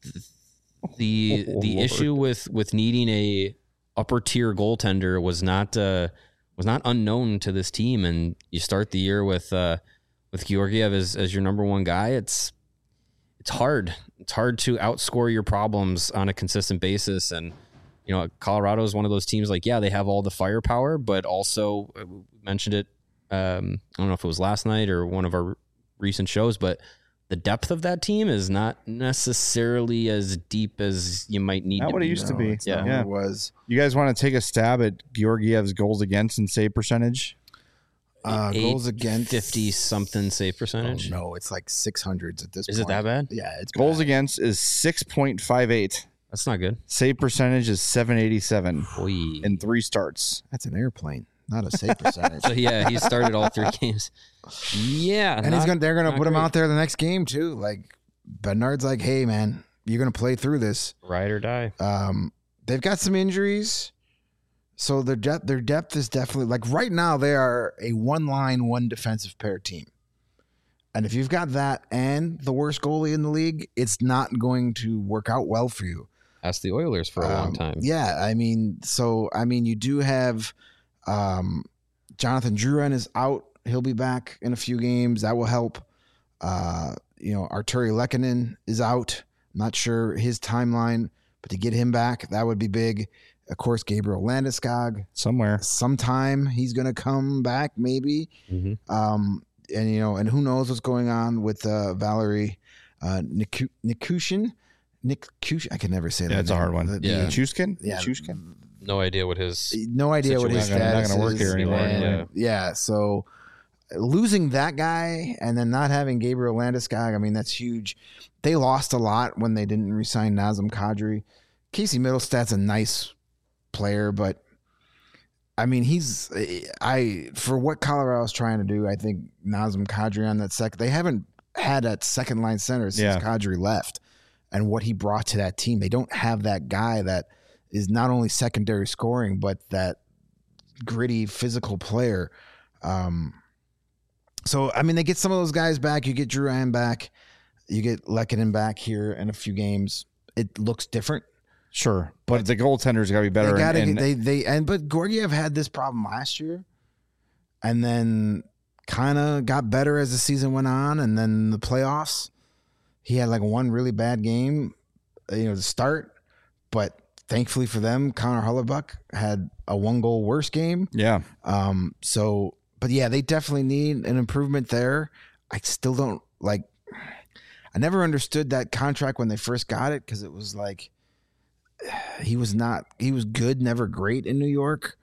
issue with needing a upper tier goaltender was not unknown to this team, and you start the year with Georgiev as your number one guy. It's hard. It's hard to outscore your problems on a consistent basis, and Colorado is one of those teams. Like, yeah, they have all the firepower, but also we mentioned it. I don't know if it was last night or one of our recent shows, but the depth of that team is not necessarily as deep as you might need. Not to what it be. used to be. It's not what it was. You guys want to take a stab at Georgiev's goals against and save percentage? Goals against 50 something save percentage. Oh, no, it's like 600s at this point. Is it that bad? Yeah, it's Goals bad. against is 6.58. That's not good. Save percentage is 787 Oy. in 3 starts. That's an airplane, not a save percentage. So yeah, he started all 3 games. Yeah, And they're gonna not put him great. out there the next game too. Like Bednard's like, hey man, you're gonna play through this. Ride or die. They've got some injuries, so their depth is definitely like right now they are a 1-line, 1 defensive pair team. And if you've got that and the worst goalie in the league, it's not going to work out well for you. Asked the Oilers for a long time. Yeah, I mean, you do have Jonathan Drouin is out. He'll be back in a few games. That will help. Arturi Lehkonen is out. I'm not sure his timeline, but to get him back, that would be big. Of course, Gabriel Landeskog. Somewhere. Sometime he's going to come back, maybe. Mm-hmm. And who knows what's going on with Valerie Nikushin. I can never say that. Yeah, it's a name. hard one. Yeah. Chuskin? Yeah. Chuskin? No idea what his. No idea what his Situation. status Not gonna work is. here anymore, And, anyway. yeah, so losing that guy and then not having Gabriel Landeskog, I mean, that's huge. They lost a lot when they didn't re-sign Nazem Kadri. Casey Middlestad's a nice player, but I mean, for what Colorado's trying to do, I think Nazem Kadri on that they haven't had that second line center since Kadri left, and what he brought to that team. They don't have that guy that is not only secondary scoring, but that gritty physical player. So, I mean, they get some of those guys back. You get Drouin back. You get Lehkonen back here in a few games. It looks different. Sure. But the goaltender's got to be better. But Georgiev had this problem last year and then kind of got better as the season went on. And then the playoffs, he had like one really bad game, to start. But thankfully for them, Connor Hellebuyck had a 1-goal worse game. Yeah. But yeah, they definitely need an improvement there. I still don't I never understood that contract when they first got it, because it was like he was good, never great in New York.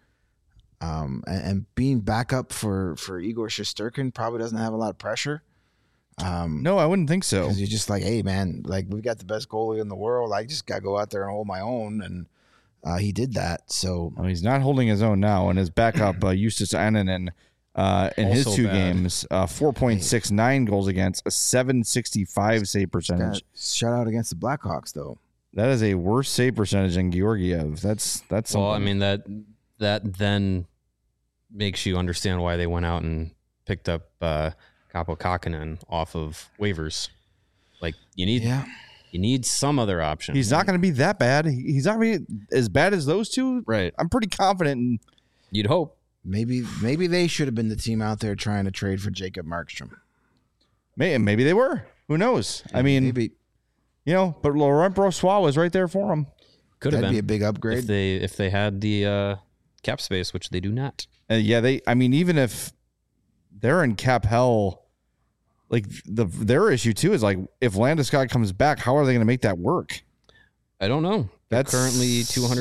And being backup for Igor Shesterkin probably doesn't have a lot of pressure. No, I wouldn't think so. Because you're just like, hey man, like we've got the best goalie in the world. I just got to go out there and hold my own. And he did that. So Well, he's not holding his own now, and his backup, Justus Annunen, in his Also 2 bad. games, 4.69 goals against, a 765 save percentage. shout out against the Blackhawks though. That is a worse save percentage than Georgiev. That's something. Well, I mean that then makes you understand why they went out and picked up Kaapo Kähkönen off of waivers. Like you need some other option. he's not going to be that bad. He's not going to be as bad as those two. right. I'm pretty confident. You'd hope. Maybe they should have been the team out there trying to trade for Jacob Markstrom. Maybe they were. Who knows? I mean, Maybe but Laurent Brossoit was right there for him. Could have that'd been be a big upgrade. if they had the cap space, which they do not. Even if they're in cap hell, like their issue too is like if Landeskog comes back, how are they going to make that work? I don't know. That's Currently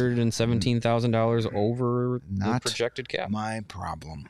$217,000 over Not the projected cap. My problem.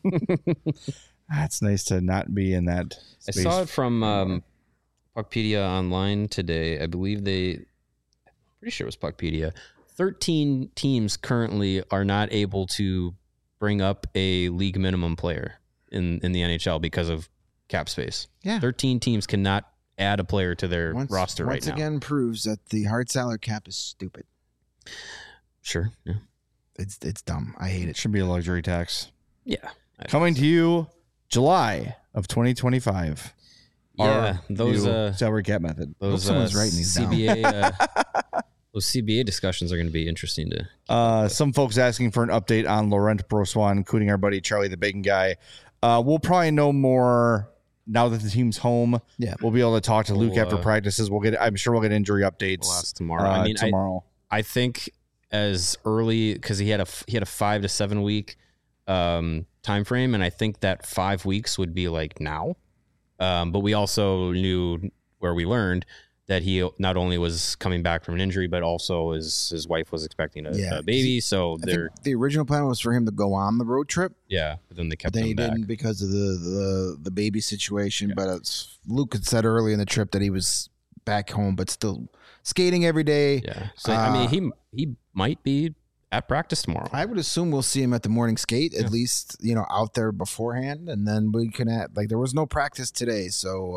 That's nice to not be in that I space. saw it from Puckpedia online today. I believe pretty sure it was Puckpedia. 13 teams currently are not able to bring up a league minimum player in the NHL because of cap space. Yeah. 13 teams cannot add a player to their roster right Once now. again proves that the hard salary cap is stupid. Sure. Yeah. It's dumb. I hate It it. should be a luxury tax. Yeah. Coming to you July of 2025. Yeah. Our Those new salary cap method. those someone's writing these down. CBA those CBA discussions are going to be interesting to Some folks asking for an update on Laurent Brossoit, including our buddy Charlie the Bacon Guy. We'll probably know more now that the team's home. Yeah. We'll be able to talk to Luke We'll, after practices. I'm sure we'll get injury updates We'll ask tomorrow. tomorrow. I think as early because he had a 5 to 7 week time frame, and I think that 5 weeks would be like now. But we also knew, where we learned, that he not only was coming back from an injury, but also his wife was expecting a baby. So the original plan was for him to go on the road trip. Yeah, but then they kept But then him he back. didn't because of the baby situation. But Luke had said early in the trip that he was back home, but still skating every day. Yeah. So I mean, he might be at practice tomorrow. I would assume we'll see him at the morning skate, at least, out there beforehand. And then we can there was no practice today. So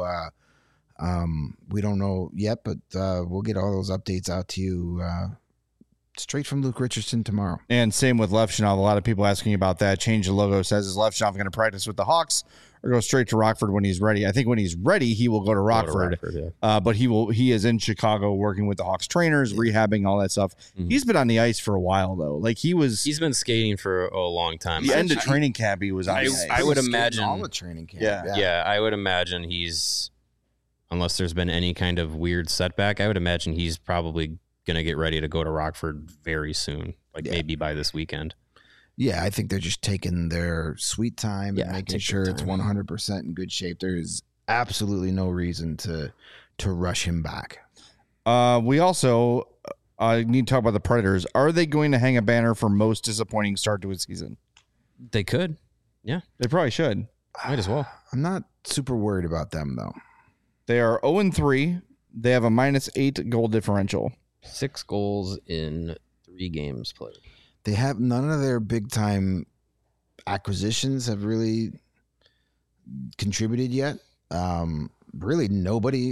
we don't know yet, but we'll get all those updates out to you straight from Luke Richardson tomorrow. And same with Levchinov. A lot of people asking about that. Change the logo says, is Levchinov going to practice with the Hawks or go straight to Rockford when he's ready? I think when he's ready, he will go to Rockford. But he is in Chicago working with the Hawks trainers, rehabbing, all that stuff. Mm-hmm. He's been on the ice for a while, though. Like he's been skating for a long time. The end of training camp, he was on the ice. I would imagine all the training camp. Yeah, I would imagine he's, unless there's been any kind of weird setback, I would imagine he's probably going to get ready to go to Rockford very soon, maybe by this weekend. Yeah, I think they're just taking their sweet time and making sure it's 100% in good shape. There is absolutely no reason to rush him back. We also need to talk about the Predators. Are they going to hang a banner for most disappointing start to a season? They could. Yeah. They probably should. Might as well. I'm not super worried about them, though. They are 0-3. They have a -8 goal differential. 6 goals in 3 games played. They have none of their big time acquisitions have really contributed yet. Really nobody,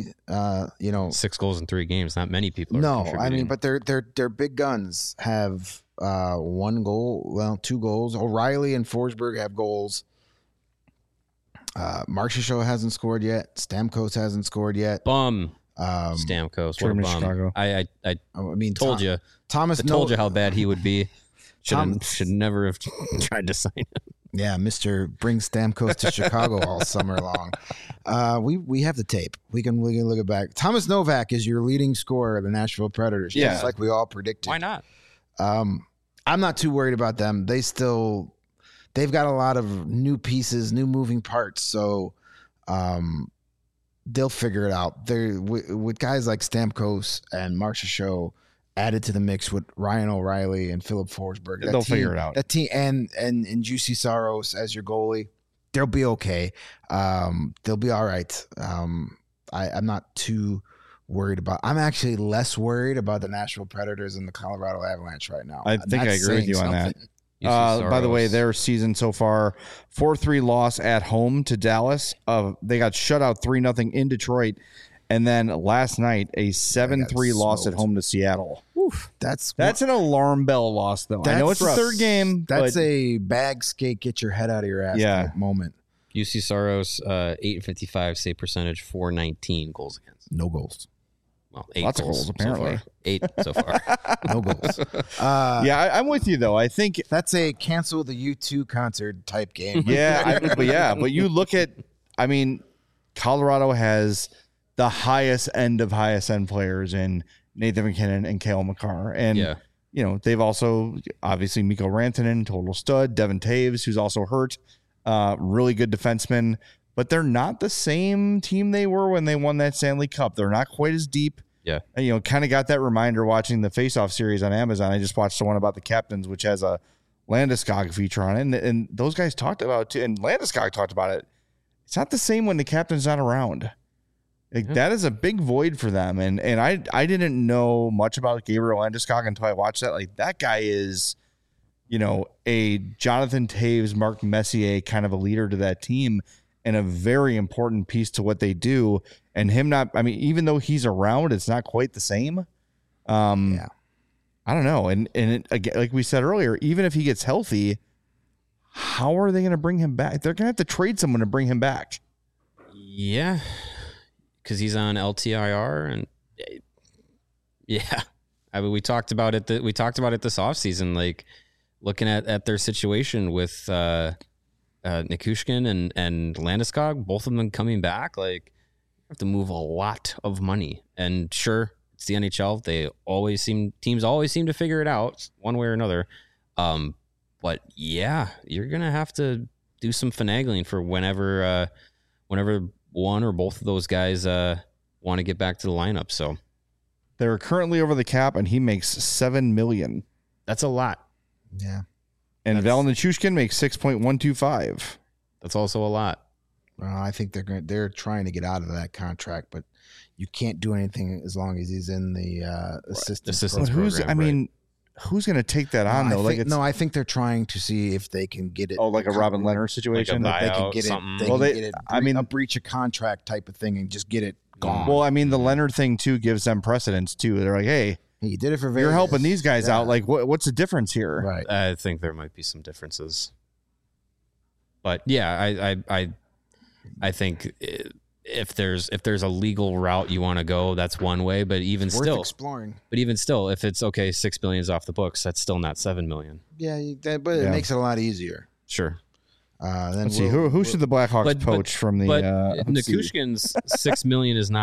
6 goals in 3 games. Not many people. I mean, but their big guns have 1 goal, 2 goals. O'Reilly and Forsberg have goals. Marchessault hasn't scored yet. Stamkos hasn't scored yet. Stamkos, what a bum. Chicago. I told you. Thomas told you how bad he would be. Should never have tried to sign him. Yeah, Mr. Bring Stamkos to Chicago all summer long. We have the tape. We can look it back. Thomas Novak is your leading scorer of the Nashville Predators, just like we all predicted. Why not? I'm not too worried about them. They've got a lot of new pieces, new moving parts, so they'll figure it out. They're with guys like Stamkos and Marchessault added to the mix with Ryan O'Reilly and Philip Forsberg. They'll figure it out. That team and Juicy Saros as your goalie, they'll be okay. They'll be all right. I'm not too worried about. I'm actually less worried about the Nashville Predators and the Colorado Avalanche right now. I think I agree with you on that. By the way, their season so far, 4-3 loss at home to Dallas. They got shut out 3-0 in Detroit. And then last night, a 7-3 loss at home to Seattle. Oof. That's an alarm bell loss, though. I know it's the third game. That's a bag skate, get your head out of your ass type moment. UC Saros, 855 save percentage, 419 goals against. No goals. Well, 8 Lots of goals, apparently. 8 so far. No goals. I'm with you, though. I think that's a cancel the U2 concert type game. But you look at, Colorado has the highest end players in Nathan McKinnon and Cale Makar. And, they've also, obviously, Mikko Rantanen, total stud. Devin Taves, who's also hurt. Really good defenseman. But they're not the same team they were when they won that Stanley Cup. They're not quite as deep. Yeah. And, kind of got that reminder watching the Face-Off series on Amazon. I just watched the one about the captains, which has a Landeskog feature on it. And those guys talked about it, too. And Landeskog talked about it. It's not the same when the captain's not around. That is a big void for them. And I didn't know much about Gabriel Landeskog until I watched that. That guy is, a Jonathan Taves, Mark Messier kind of a leader to that team and a very important piece to what they do. And him not, even though he's around, it's not quite the same. I don't know. And again, like we said earlier, even if he gets healthy, how are they going to bring him back? They're going to have to trade someone to bring him back. Yeah. Because he's on LTIR, and we talked about it. We talked about it this offseason, looking at their situation with Nichushkin and Landeskog, both of them coming back. Have to move a lot of money, and sure, it's the NHL. Teams always seem to figure it out one way or another. But you're gonna have to do some finagling for whenever one or both of those guys want to get back to the lineup. So They're currently over the cap, and he makes $7 million. that's a lot. Yeah. And Val Nichushkin makes 6.125. That's also a lot. Well, I think they're trying to get out of that contract, but you can't do anything as long as he's in the assistance Assistance program. Who's going to take that on though? I think they're trying to see if they can get it. Like a Robin Leonard situation. Like They can buyout, get it. something. They Well, can they- get it. I mean- a breach of contract type of thing and just get it gone. Well, I mean, the Leonard thing too gives them precedence too. They're like, hey, Hey, you did it for Vegas. you're helping these guys Yeah. out. Like, what's the difference here? Right. I think there might be some differences, but yeah, I think if there's a legal route you want to go, that's one way. But even Worth still, exploring. if it's okay, $6 million is off the books. That's still not $7 million. Yeah, but it makes it a lot easier. Sure, Then Let's see who should the Blackhawks poach from the. but let's see. Nichushkin's $6 million is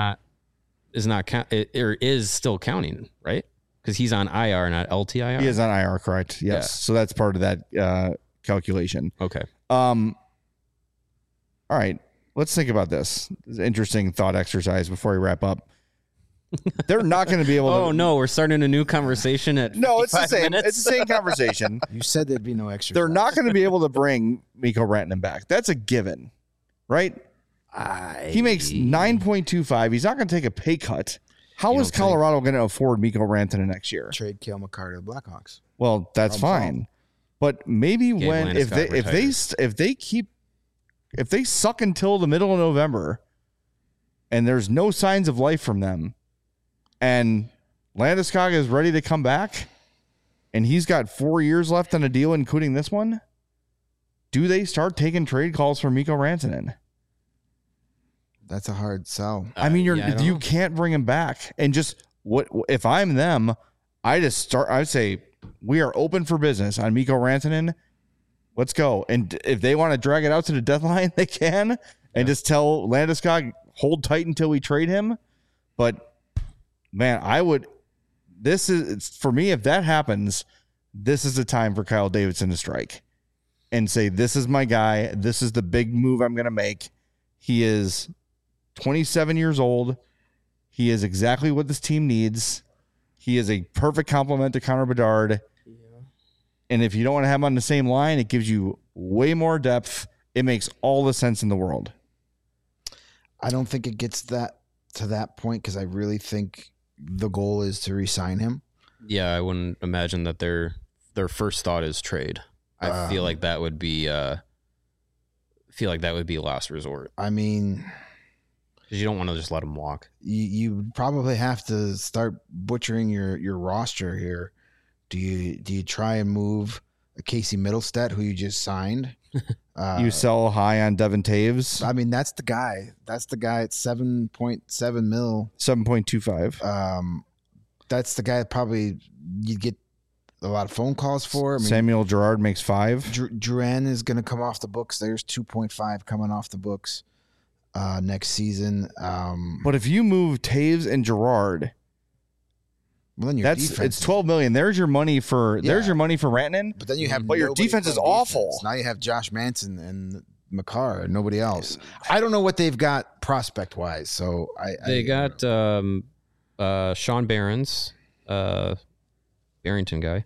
still counting, right? Because he's on IR, not LTIR. He is on IR, correct? Yes. Yeah. So that's part of that calculation. Okay. All right. Let's think about this. This is an interesting thought exercise before we wrap up. They're not going to be able to. Oh no, we're starting a new conversation at No, it's the 55 same. minutes. It's the same conversation. You said there'd be no extra. They're not going to be able to bring Mikko Rantanen back. That's a given, right? He makes 9.25. He's not going to take a pay cut. How You is don't think- Colorado going to afford Mikko Rantanen next year? trade Cale Makar to the Blackhawks. Well, that's fine, but maybe when Landeskog if they suck until the middle of November, and there's no signs of life from them, and Landeskog is ready to come back, and he's got 4 years left on a deal, including this one, do they start taking trade calls for Mikko Rantanen? That's a hard sell. I mean, I don't you know. can't bring him back. And just what if I'm them? I say we are open for business on Mikko Rantanen. Let's go. And if they want to drag it out to the deadline, they can. And just tell Landeskog hold tight until we trade him. But man, it's for me. If that happens, this is the time for Kyle Davidson to strike and say, "This is my guy. This is the big move I'm going to make." He is 27 years old. He is exactly what this team needs. He is a perfect complement to Connor Bedard. And if you don't want to have him on the same line, it gives you way more depth. It makes all the sense in the world. I don't think it gets to that point because I really think the goal is to re-sign him. Yeah, I wouldn't imagine that their first thought is trade. I feel like that would be last resort I mean, because you don't want to just let him walk. you probably have to start butchering your roster here. Do you try and move a Casey Middlestat who you just signed? You sell high on Devin Taves, I mean, that's the guy. That's the guy at 7.7 mil. 7.25. That's the guy that probably you'd get a lot of phone calls for. I mean, Samuel Girard makes 5. Duran is going to come off the books. There's 2.5 coming off the books next season. But if you move Taves and Girard, Well, then your it's defense, $12 million. There's your money for Rantanen. but then you have But your nobody defense is playing awful. defense. Now you have Josh Manson and Makar and nobody else. I don't know what they've got prospect wise. So They got Sean Barons, Barrington guy.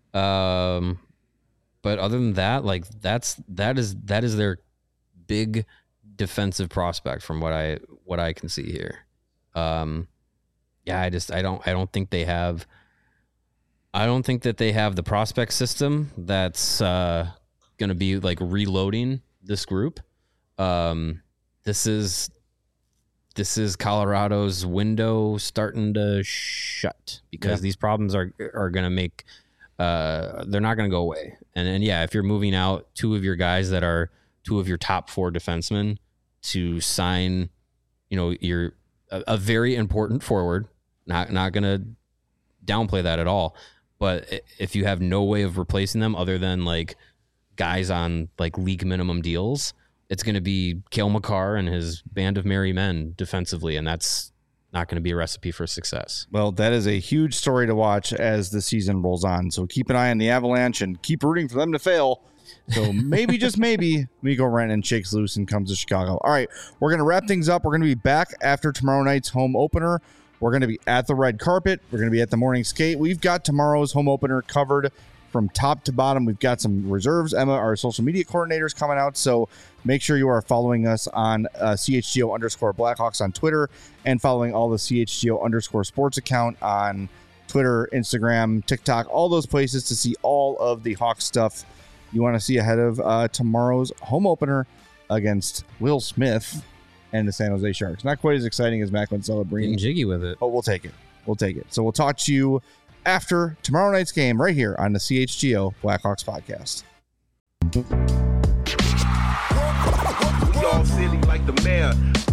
But other than that, like that is their big defensive prospect from what I can see here. Yeah, I don't think they have. I don't think that they have the prospect system that's going to be like reloading this group. This is Colorado's window starting to shut because these problems are going to make. They're not going to go away. And yeah, if you're moving out two of your guys that are two of your top 4 defensemen to sign, you're a very important forward. Not going to downplay that at all. But if you have no way of replacing them other than like guys on like league minimum deals, it's going to be Cale Makar and his band of merry men defensively, and that's not going to be a recipe for success. Well, that is a huge story to watch as the season rolls on. So keep an eye on the Avalanche and keep rooting for them to fail. So maybe, just maybe, Mikko Rantanen shakes loose and comes to Chicago. All right, we're going to wrap things up. We're going to be back after tomorrow night's home opener. We're going to be at the red carpet. We're going to be at the morning skate. We've got tomorrow's home opener covered from top to bottom. We've got some reserves. Emma, our social media coordinator, is coming out. So make sure you are following us on CHGO_Blackhawks on Twitter and following all the CHGO_sports account on Twitter, Instagram, TikTok, all those places to see all of the Hawks stuff you want to see ahead of tomorrow's home opener against Will Smith and the San Jose Sharks. Not quite as exciting as Macklin Celebrini. Getting jiggy with it. But we'll take it. We'll take it. So we'll talk to you after tomorrow night's game right here on the CHGO Blackhawks podcast. We all silly like the mayor.